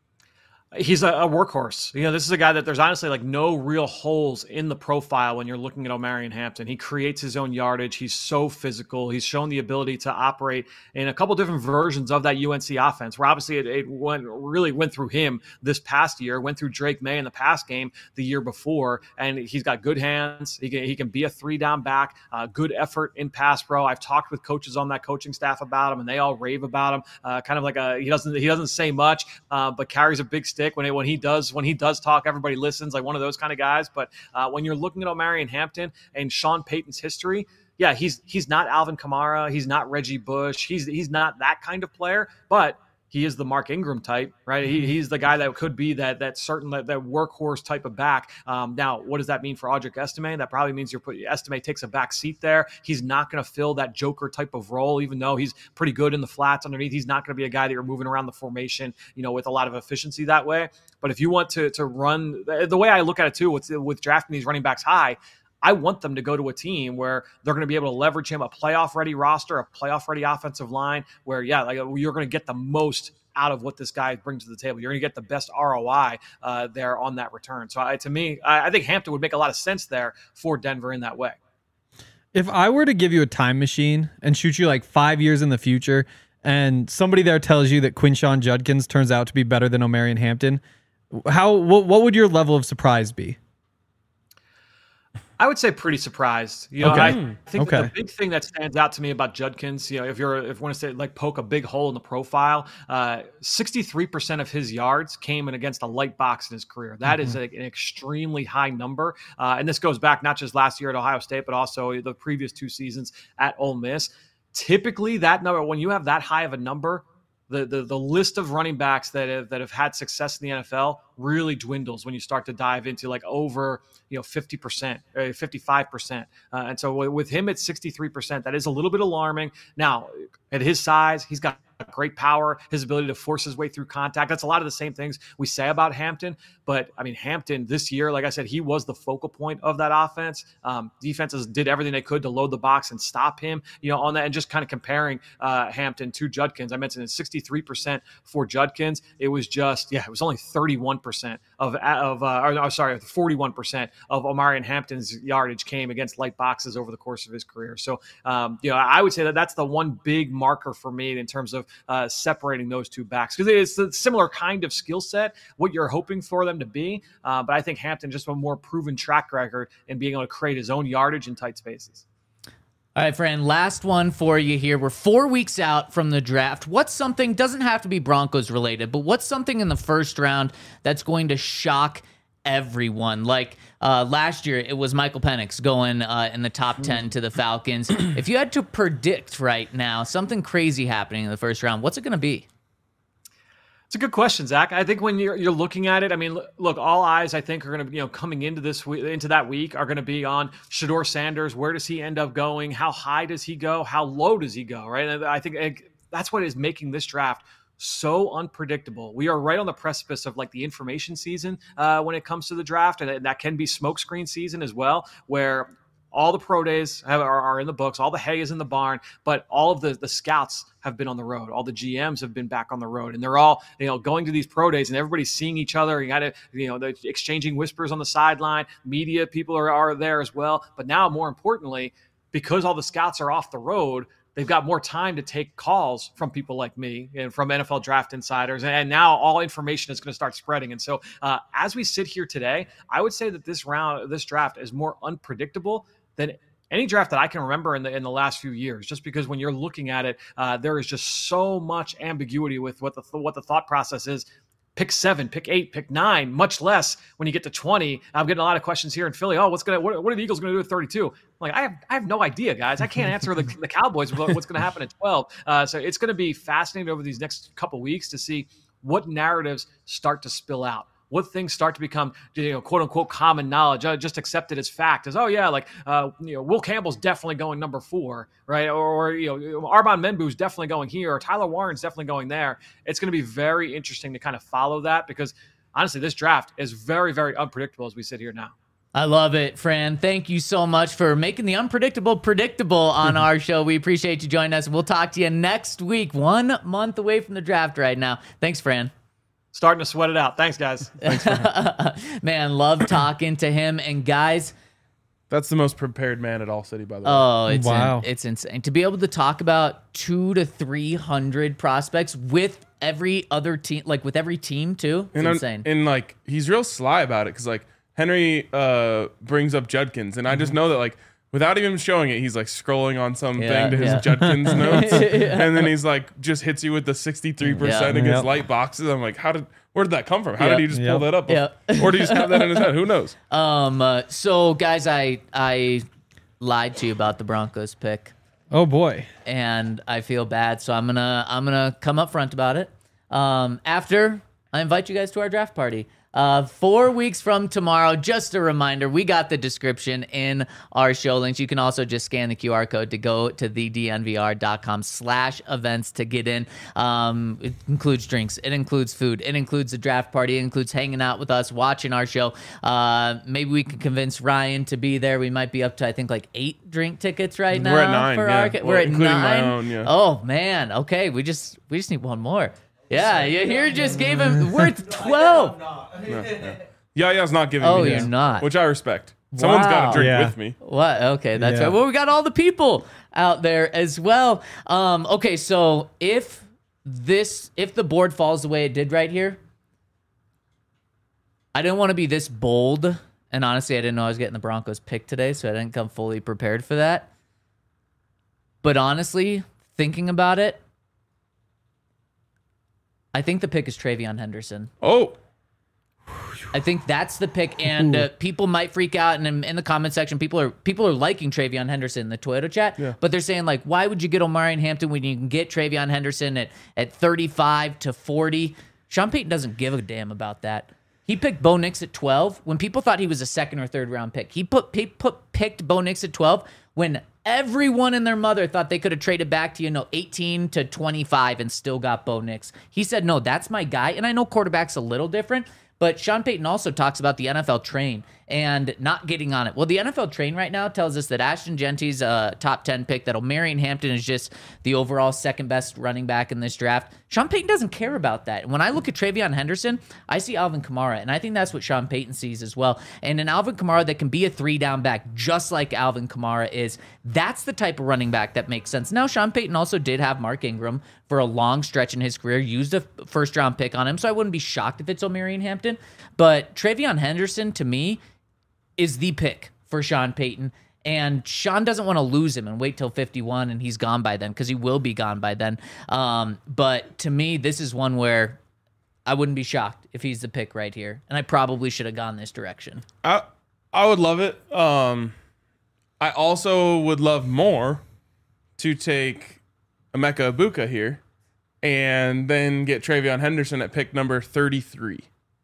He's a workhorse. This is a guy that there's honestly like no real holes in the profile when you're looking at Omarion Hampton. He creates his own yardage. He's so physical. He's shown the ability to operate in a couple different versions of that UNC offense, where obviously it went through him this past year, went through Drake May in the pass game the year before, and he's got good hands. He can be a 3-down back, good effort in pass pro. I've talked with coaches on that coaching staff about him, and they all rave about him. Kind of like he doesn't say much, but carries a big stick. When he does talk, everybody listens, like one of those kind of guys. But when you're looking at Omarion Hampton and Sean Payton's history, yeah, he's not Alvin Kamara, he's not Reggie Bush, he's not that kind of player, but he is the Mark Ingram type, right? He's the guy that could be that certain that workhorse type of back. Now, what does that mean for Audric Estime? That probably means Estime takes a back seat there. He's not going to fill that Joker type of role, even though he's pretty good in the flats underneath. He's not going to be a guy that you're moving around the formation, with a lot of efficiency that way. But if you want to run the way I look at it too, with drafting these running backs high, I want them to go to a team where they're going to be able to leverage him, a playoff-ready roster, a playoff-ready offensive line, where, you're going to get the most out of what this guy brings to the table. You're going to get the best ROI there on that return. So to me, I think Hampton would make a lot of sense there for Denver in that way. If I were to give you a time machine and shoot you like 5 years in the future, and somebody there tells you that Quinshon Judkins turns out to be better than Omarion Hampton, what would your level of surprise be? I would say pretty surprised. Okay. I think that the big thing that stands out to me about Judkins, if you want to say like poke a big hole in the profile, 63% of his yards came in against a light box in his career. That is an extremely high number. And this goes back not just last year at Ohio State, but also the previous 2 seasons at Ole Miss. Typically that number, when you have that high of a number, the list of running backs that have had success in the NFL really dwindles when you start to dive into like over 50%, 55%. And so with him at 63%, that is a little bit alarming. Now, at his size, he's got great power, his ability to force his way through contact. That's a lot of the same things we say about Hampton. But I mean, Hampton this year, like I said, he was the focal point of that offense. Defenses did everything they could to load the box and stop him, on that. And just kind of comparing Hampton to Judkins, I mentioned it's 63% for Judkins. It was it was only 31% of 41% of Omarion Hampton's yardage came against light boxes over the course of his career. So, I would say that's the one big marker for me in terms of separating those two backs, because it's a similar kind of skill set, what you're hoping for them to be. But I think Hampton just a more proven track record in being able to create his own yardage in tight spaces. All right, Fran, last one for you here. We're 4 weeks out from the draft. What's something, doesn't have to be Broncos related, but what's something in the first round that's going to shock everyone? Like last year, it was Michael Penix going in the top 10 to the Falcons. If you had to predict right now something crazy happening in the first round, what's it going to be? It's a good question, Zach. I think when you're looking at it, I mean, look, all eyes I think are going to, coming into that week are going to be on Shedeur Sanders. Where does he end up going? How high does he go? How low does he go? Right. And I think that's what is making this draft so unpredictable. We are right on the precipice of like the information season when it comes to the draft, and that can be smokescreen season as well, where all the pro days are in the books, all the hay is in the barn, but all of the scouts have been on the road. All the GMs have been back on the road, and they're all going to these pro days, and everybody's seeing each other. You got to they're exchanging whispers on the sideline. Media people are there as well. But now, more importantly, because all the scouts are off the road, they've got more time to take calls from people like me and from NFL Draft Insiders. And now all information is going to start spreading. And so as we sit here today, I would say that this draft is more unpredictable than any draft that I can remember in the last few years, just because when you're looking at it, there is just so much ambiguity with what the thought process is pick 7, pick 8, pick 9, much less when you get to 20. I'm getting a lot of questions here in Philly. Oh, what are the Eagles going to do at 32? I'm like, I have no idea, guys. I can't answer the Cowboys what's going to happen at 12. So it's going to be fascinating over these next couple weeks to see what narratives start to spill out. What things start to become, quote unquote, common knowledge, just accepted as fact, as, oh yeah, like, Will Campbell's definitely going number 4, right? Or Armand Menbu's definitely going here, or Tyler Warren's definitely going there. It's going to be very interesting to kind of follow that, because honestly, this draft is very, very unpredictable as we sit here now. I love it, Fran. Thank you so much for making the unpredictable predictable on our show. We appreciate you joining us. We'll talk to you next week, 1 month away from the draft right now. Thanks, Fran. Starting to sweat it out. Thanks, guys. Man, love talking to him. And guys, That's the most prepared man at All City, by the way. oh, it's Wow. it's insane to be able to talk about 200 to 300 prospects with every other team, like with every team too. It's insane. And like he's real sly about it, because like Henry brings up Judkins, and I just know that like without even showing it, he's like scrolling on something to his Judkins notes, and then he's like just hits you with the 63% against light boxes. I'm like, where did that come from? How did he just pull that up? Or did he just have that in his head? Who knows? So guys, I lied to you about the Broncos pick, Oh boy. and I feel bad. So I'm gonna come up front about it. After I invite you guys to our draft party. 4 weeks from tomorrow, just a reminder, we got the description in our show links. You can also just scan the QR code to go to thednvr.com/events to get in. It includes drinks. It includes food. It includes the draft party. It includes hanging out with us, watching our show. Maybe we can convince Ryan to be there. We might be up to, I think, like 8 drink tickets right now. We're at 9, We're at including 9. my own, yeah. Oh, man. Okay, we just need one more. Yeah, you here just gave him. We're at 12. Yaya's not giving Oh, me you're his, not. which I respect. Someone's got Wow. to drink Yeah. with me. What? Okay, that's Yeah. right. Well, we got all the people out there as well. Okay, so if the board falls the way it did right here, I didn't want to be this bold, and honestly, I didn't know I was getting the Broncos pick today, so I didn't come fully prepared for that. But honestly, thinking about it, I think the pick is Travion Henderson. Oh, I think that's the pick, and people might freak out. And in the comment section, people are liking Travion Henderson in the Toyota chat, but they're saying like, why would you get Omarion Hampton when you can get Travion Henderson at 35 to 40? Sean Payton doesn't give a damn about that. He picked Bo Nix at 12 when people thought he was a 2nd or 3rd round pick. He picked Bo Nix at 12 when everyone and their mother thought they could have traded back to 18 to 25 and still got Bo Nix. He said, no, that's my guy. And I know quarterback's a little different, but Sean Payton also talks about the NFL train and not getting on it. Well, the NFL train right now tells us that Ashton Genty's a top 10 pick, that Omarion Hampton is just the overall 2nd best running back in this draft. Sean Payton doesn't care about that. And when I look at Travion Henderson, I see Alvin Kamara, and I think that's what Sean Payton sees as well. And an Alvin Kamara that can be a 3-down back, just like Alvin Kamara is, that's the type of running back that makes sense. Now, Sean Payton also did have Mark Ingram for a long stretch in his career, used a 1st-round pick on him, so I wouldn't be shocked if it's Omarion Hampton. But Travion Henderson, to me, is the pick for Sean Payton. And Sean doesn't want to lose him and wait till 51 and he's gone by then, because he will be gone by then. But to me, this is one where I wouldn't be shocked if he's the pick right here. And I probably should have gone this direction. I would love it. I also would love more to take Emeka Ibuka here and then get Travion Henderson at pick number 33.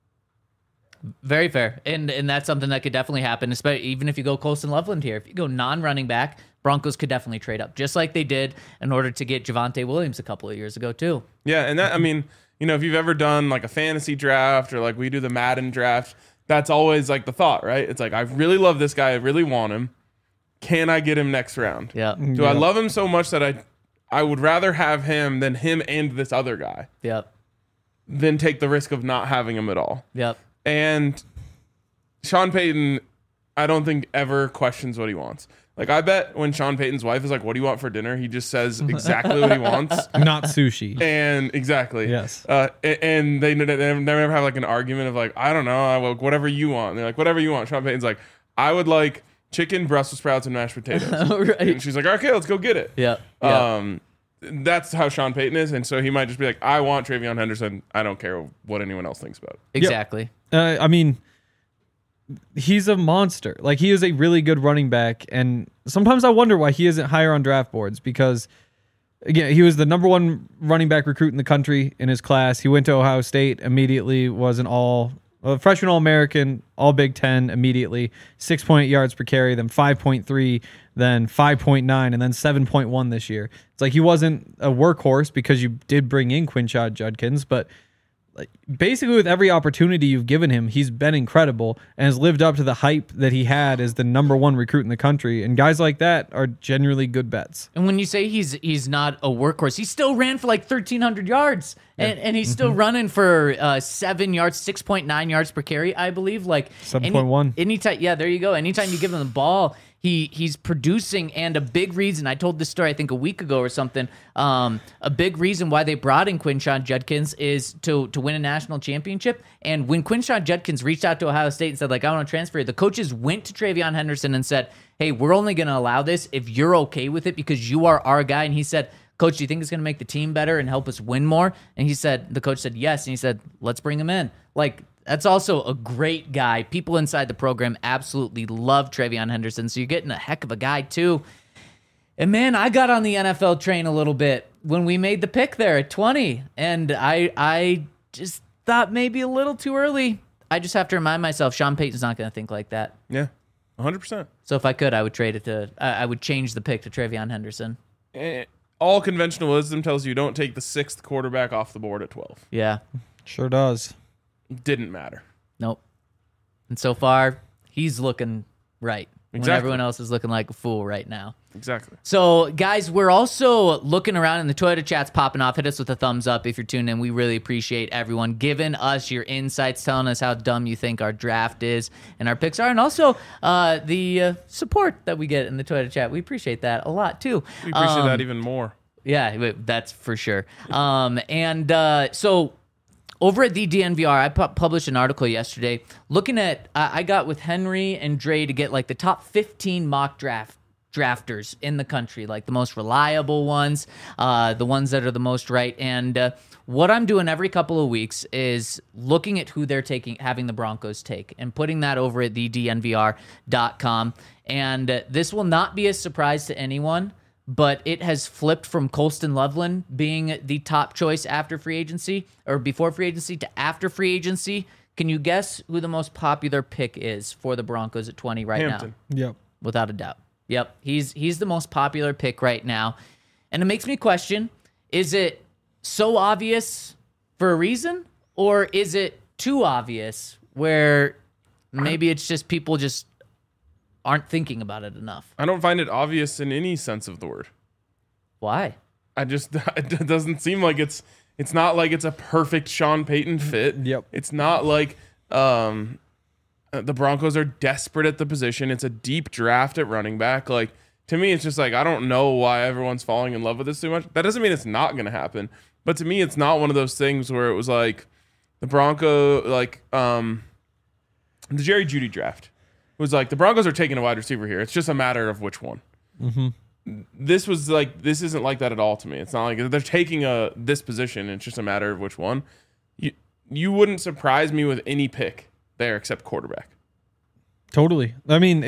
Very fair. And that's something that could definitely happen, especially even if you go Colston Loveland here. If you go non-running back, Broncos could definitely trade up, just like they did in order to get Javonte Williams a couple of years ago too. Yeah, and that, I mean, if you've ever done like a fantasy draft or like we do the Madden draft, that's always like the thought, right? It's like, I really love this guy. I really want him. Can I get him next round? Yeah. Do I love him so much that I would rather have him than him and this other guy Yep. than take the risk of not having him at all? Yep. And Sean Payton, I don't think ever questions what he wants. Like, I bet when Sean Payton's wife is like, what do you want for dinner? He just says exactly what he wants. Not sushi. And exactly. Yes. And they never have like an argument of like, I don't know, whatever you want. And they're like, whatever you want. Sean Payton's like, I would like chicken, Brussels sprouts, and mashed potatoes. Right. And she's like, okay, let's go get it. Yep. that's how Sean Payton is, and so he might just be like, I want Travion Henderson. I don't care what anyone else thinks about it. Exactly. I mean, he's a monster. Like, he is a really good running back, and sometimes I wonder why he isn't higher on draft boards because, again, he was the number one running back recruit in the country in his class. He went to Ohio State, immediately was a freshman All-American, All Big Ten immediately, 6.8 yards per carry, then 5.3, then 5.9, and then 7.1 this year. It's like he wasn't a workhorse because you did bring in Quinshon Judkins, but like basically with every opportunity you've given him, he's been incredible and has lived up to the hype that he had as the number one recruit in the country. And guys like that are genuinely good bets. And when you say he's not a workhorse, he still ran for like 1,300 yards, and he's still running for 7 yards, 6.9 yards per carry, I believe. Like 7.1. Anytime, yeah, there you go. Anytime you give him the ball, he's producing, and a big reason, I told this story I think a week ago or something, a big reason why they brought in Quinshon Judkins is to win a national championship. And when Quinshon Judkins reached out to Ohio State and said, like, I want to transfer, the coaches went to Travion Henderson and said, hey, we're only going to allow this if you're okay with it because you are our guy. And he said, Coach, do you think it's going to make the team better and help us win more? And the coach said, yes. And he said, let's bring him in. Like, that's also a great guy. People inside the program absolutely love Travion Henderson. So you're getting a heck of a guy too. And man, I got on the NFL train a little bit when we made the pick there at 20. And I just thought maybe a little too early. I just have to remind myself, Sean Payton's not going to think like that. Yeah, 100%. So if I could, I would trade it to, I would change the pick to Travion Henderson. All conventional wisdom tells you don't take the 6th quarterback off the board at 12. Yeah. Sure does. Didn't matter. Nope. And so far, he's looking right. When Exactly. everyone else is looking like a fool right now. Exactly. So, guys, we're also looking around, and the Toyota chat's popping off. Hit us with a thumbs up if you're tuned in. We really appreciate everyone giving us your insights, telling us how dumb you think our draft is and our picks are, and also the support that we get in the Toyota chat. We appreciate that a lot, too. We appreciate that even more. Yeah, that's for sure. So over at the DNVR, I published an article yesterday looking at, I got with Henry and Dre to get like the top 15 mock drafters in the country, like the most reliable ones, the ones that are the most right. And what I'm doing every couple of weeks is looking at who they're having the Broncos take and putting that over at thednvr.com. And this will not be a surprise to anyone, but it has flipped from Colston Loveland being the top choice after free agency or before free agency to after free agency. Can you guess who the most popular pick is for the Broncos at 20 right Hampton. now? Yep. Without a doubt. Yep. He's the most popular pick right now. And it makes me question, is it so obvious for a reason, or is it too obvious where maybe it's just people just aren't thinking about it enough? I don't find it obvious in any sense of the word. Why? It doesn't seem like it's not like it's a perfect Sean Payton fit. Yep. It's not like the Broncos are desperate at the position. It's a deep draft at running back. Like, to me, it's just like, I don't know why everyone's falling in love with this too much. That doesn't mean it's not going to happen. But to me, it's not one of those things where it was like the Bronco, like the Jerry Jeudy draft. It was like the Broncos are taking a wide receiver here. It's just a matter of which one. Mm-hmm. This isn't like that at all to me. It's not like they're taking this position. It's just a matter of which one. You wouldn't surprise me with any pick there except quarterback. Totally. I mean,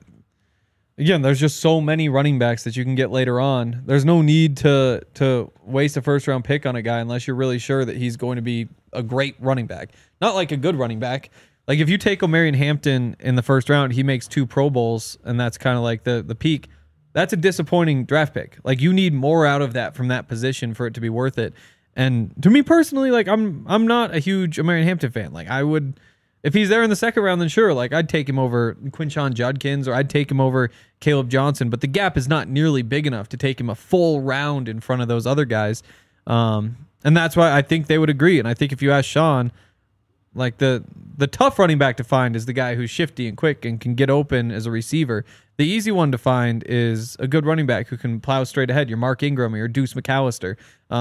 there's just so many running backs that you can get later on. There's no need to waste a first round pick on a guy unless you're really sure that he's going to be a great running back. Not like a good running back. Like, if you take Omarion Hampton in the first round, he makes 2 Pro Bowls, and that's kind of like the peak. That's a disappointing draft pick. Like, you need more out of that from that position for it to be worth it. And to me personally, like, I'm not a huge Omarion Hampton fan. Like, I would, if he's there in the second round, then sure, like, I'd take him over Quinshon Judkins, or I'd take him over Caleb Johnson, but the gap is not nearly big enough to take him a full round in front of those other guys. And that's why I think they would agree. And I think if you ask Sean, like, the tough running back to find is the guy who's shifty and quick and can get open as a receiver. The easy one to find is a good running back who can plow straight ahead. Your Mark Ingram or your Deuce McAllister.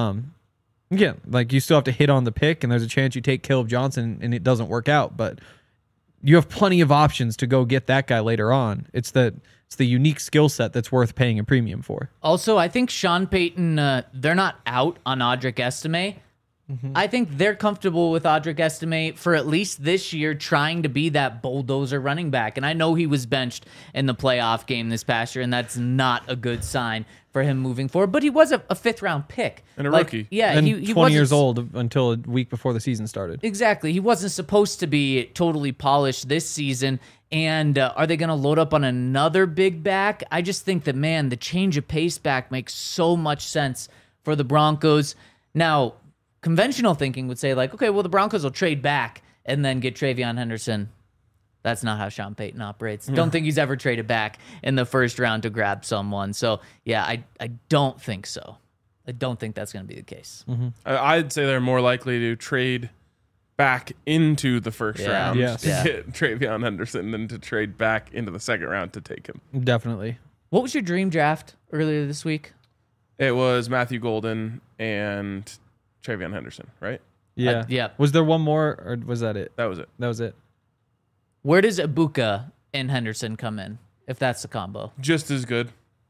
Again, like, you still have to hit on the pick, and there's a chance you take Caleb Johnson and it doesn't work out. But you have plenty of options to go get that guy later on. It's the It's the unique skill set that's worth paying a premium for. Also, I think Sean Payton, they're not out on Audric Estime. I think they're comfortable with Audric Estime for at least this year trying to be that bulldozer running back. And I know he was benched in the playoff game this past year, and that's not a good sign for him moving forward. But he was a fifth-round pick. And a rookie. Yeah, And he 20 wasn't years old until a week before the season started. Exactly. He wasn't supposed to be totally polished this season. And are they going to load up on another big back? I just think that, man, the change of pace back makes so much sense for the Broncos. Now, conventional thinking would say, like, okay, well, the Broncos will trade back and then get Travion Henderson. That's not how Sean Payton operates. Don't think he's ever traded back in the first round to grab someone. So, yeah, I don't think so. I don't think that's going to be the case. I'd say they're more likely to trade back into the first round Yes. to Yeah. get Travion Henderson than to trade back into the second round to take him. Definitely. What was your dream draft earlier this week? It was Matthew Golden and Travion Henderson, right? Yeah. yeah. Was there one more, or was that it? That was it. That was it. Where does Ibuka and Henderson come in, if that's the combo? Just as good.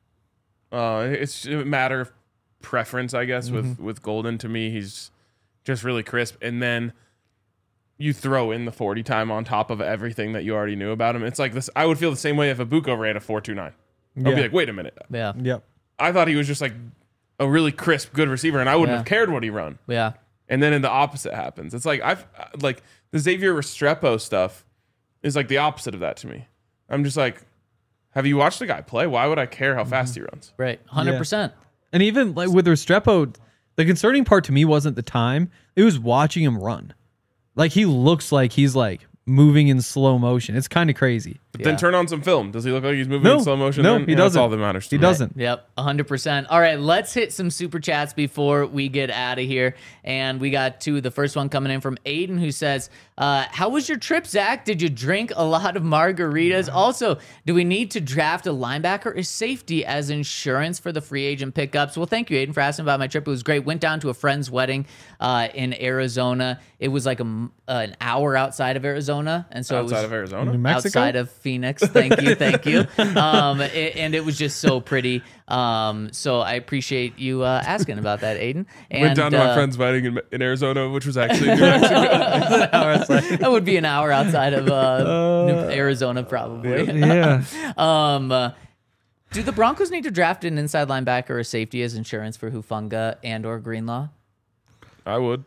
It's a matter of preference, I guess, with Golden. To me, he's just really crisp. And then you throw in the 40 time on top of everything that you already knew about him. It's like this. I would feel the same way if Ibuka ran a 4.29. I'd be like, wait a minute. Yeah. Yep. I thought he was just like a really crisp, good receiver, and I wouldn't have cared what he run. Yeah. And then the opposite happens. It's like like the Xavier Restrepo stuff is like the opposite of that to me. I'm just like, have you watched the guy play? Why would I care how fast he runs? Right. 100%. And even like with Restrepo, the concerning part to me wasn't the time. It was watching him run. Like he looks like he's like moving in slow motion. It's kind of crazy. But Yeah. then turn on some film. Does he look like he's moving No. in slow motion? No, then? he Yeah, doesn't. That's all that matters. He to me. doesn't. Yep, 100%. All right, let's hit some super chats before we get out of here. And we got two. The first one coming in from Aiden, who says, how was your trip, Zach? Did you drink a lot of margaritas? Also, do we need to draft a linebacker or safety as insurance for the free agent pickups? Well, thank you, Aiden, for asking about my trip. It was great. Went down to a friend's wedding in Arizona. It was like an hour outside of Arizona. And so Outside it was of Arizona? New Mexico? outside of Phoenix. Thank you. And it was just so pretty. So I appreciate you asking about that, Aiden. And, Went down to my friend's wedding in Arizona, which was actually New Mexico. that would be an hour outside of Arizona, probably. Yeah. Do the Broncos need to draft an inside linebacker or safety as insurance for Hufanga and or Greenlaw? I would.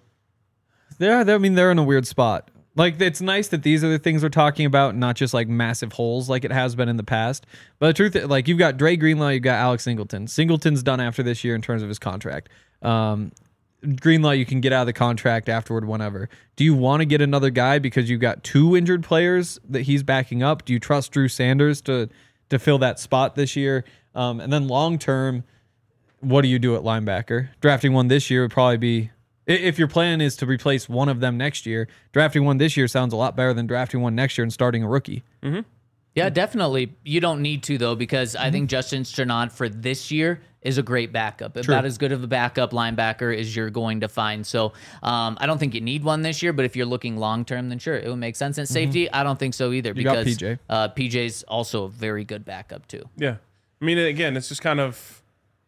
I mean, they're in a weird spot. Like, it's nice that these are the things we're talking about, not just like massive holes like it has been in the past. But the truth is, like, you've got Dre Greenlaw, you've got Alex Singleton. Singleton's done after this year in terms of his contract. Greenlaw, you can get out of the contract afterward whenever. Do you want to get another guy because you've got two injured players that he's backing up? Do you trust Drew Sanders to fill that spot this year? And then long term, what do you do at linebacker? Drafting one this year would probably be, if your plan is to replace one of them next year, drafting one this year sounds a lot better than drafting one next year and starting a rookie. Yeah, definitely. You don't need to, though, because I think Justin Strnad for this year is a great backup. About as good of a backup linebacker as you're going to find. So I don't think you need one this year, but if you're looking long-term, then sure, it would make sense. And safety, I don't think so either, You got because PJ. PJ's also a very good backup, too. Yeah. I mean, again, it's just kind of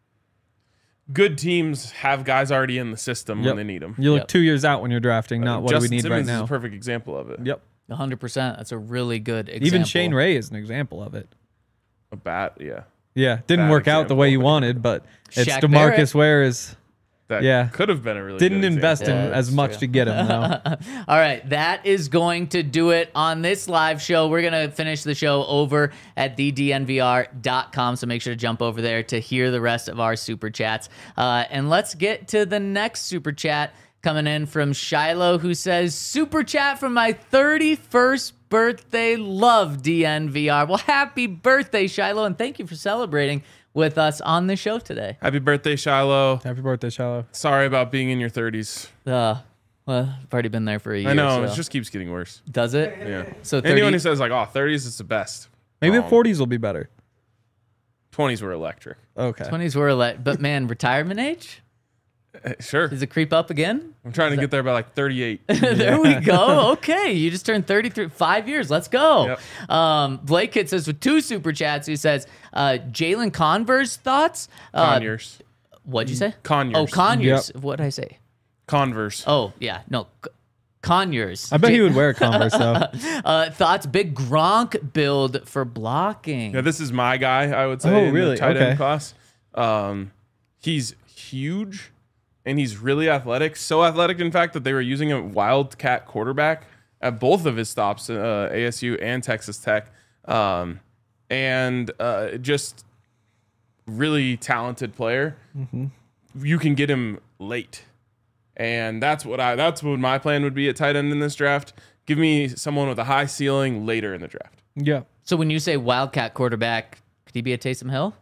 good teams have guys already in the system when they need them. You look Yep. 2 years out when you're drafting, not what Justin do we need Simmons right is now. a perfect example of it. Yep. 100%. That's a really good example. Even Shane Ray is an example of it. A bat, yeah. Yeah, didn't Bad work out the way you example. wanted, but it's Shaq DeMarcus Ware is That Yeah. could have been a really didn't good invest example. in Yeah, as that's much true. to get him though. All right, that is going to do it on this live show. We're going to finish the show over at thednvr.com, so make sure to jump over there to hear the rest of our super chats. And let's get to the next super chat coming in from Shiloh, who says, super chat from my 31st birthday. Love DNVR. Well, happy birthday, Shiloh, and thank you for celebrating with us on the show today. Happy birthday, Shiloh. Happy birthday, Shallow. Sorry about being in your 30s. Well, I've already been there for a year. I know, so. it just keeps getting worse. Does it? Yeah. So 30, Anyone who says like, oh, 30s is the best. Maybe Wrong. the 40s will be better. 20s were electric. Okay. 20s were but man, retirement age? Sure. Does it creep up again? I'm trying to get there by like 38. There we go. Okay, you just turned 33. 5 years. Let's go. Yep. Blake Kit says with 2 super chats. He says, Jalen Converse thoughts. Conyers. What'd you say? Conyers. Oh, Conyers. What did I say? Converse. Oh, yeah. No, Conyers. I bet he would wear a Converse though. Thoughts? Big Gronk build for blocking. Yeah, this is my guy, I would say, Oh, in really? the tight Okay. end class. He's huge, and he's really athletic. So athletic, in fact, that they were using a wildcat quarterback at both of his stops, ASU and Texas Tech. Just really talented player. Mm-hmm. You can get him late. And that's what my plan would be at tight end in this draft. Give me someone with a high ceiling later in the draft. Yeah. So when you say Wildcat quarterback, could he be a Taysom Hill?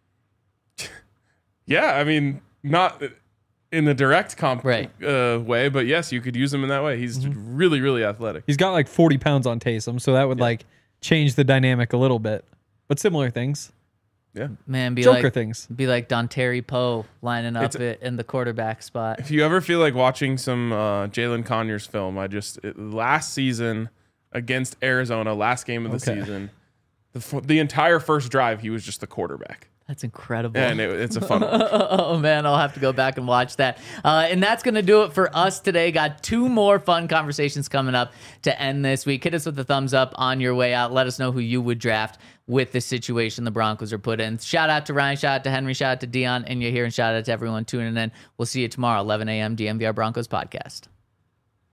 Yeah, I mean, not in the direct Right. way, but yes, you could use him in that way. He's really, really athletic. He's got like 40 pounds on Taysom, so that would like change the dynamic a little bit. But similar things. Yeah. Man, be Joker like things. Be like Dontari Poe lining up It's- in the quarterback spot. If you ever feel like watching some Jalen Conyers film, last season against Arizona, last game of the Okay. season, the entire first drive, he was just the quarterback. That's incredible. And it's a fun one. Oh man, I'll have to go back and watch that. And that's going to do it for us today. Got 2 more fun conversations coming up to end this week. Hit us with a thumbs up on your way out. Let us know who you would draft with the situation the Broncos are put in. Shout out to Ryan, shout out to Henry, shout out to Dion and Yahir, and shout out to everyone tuning in. We'll see you tomorrow, 11 a.m. DMVR Broncos podcast.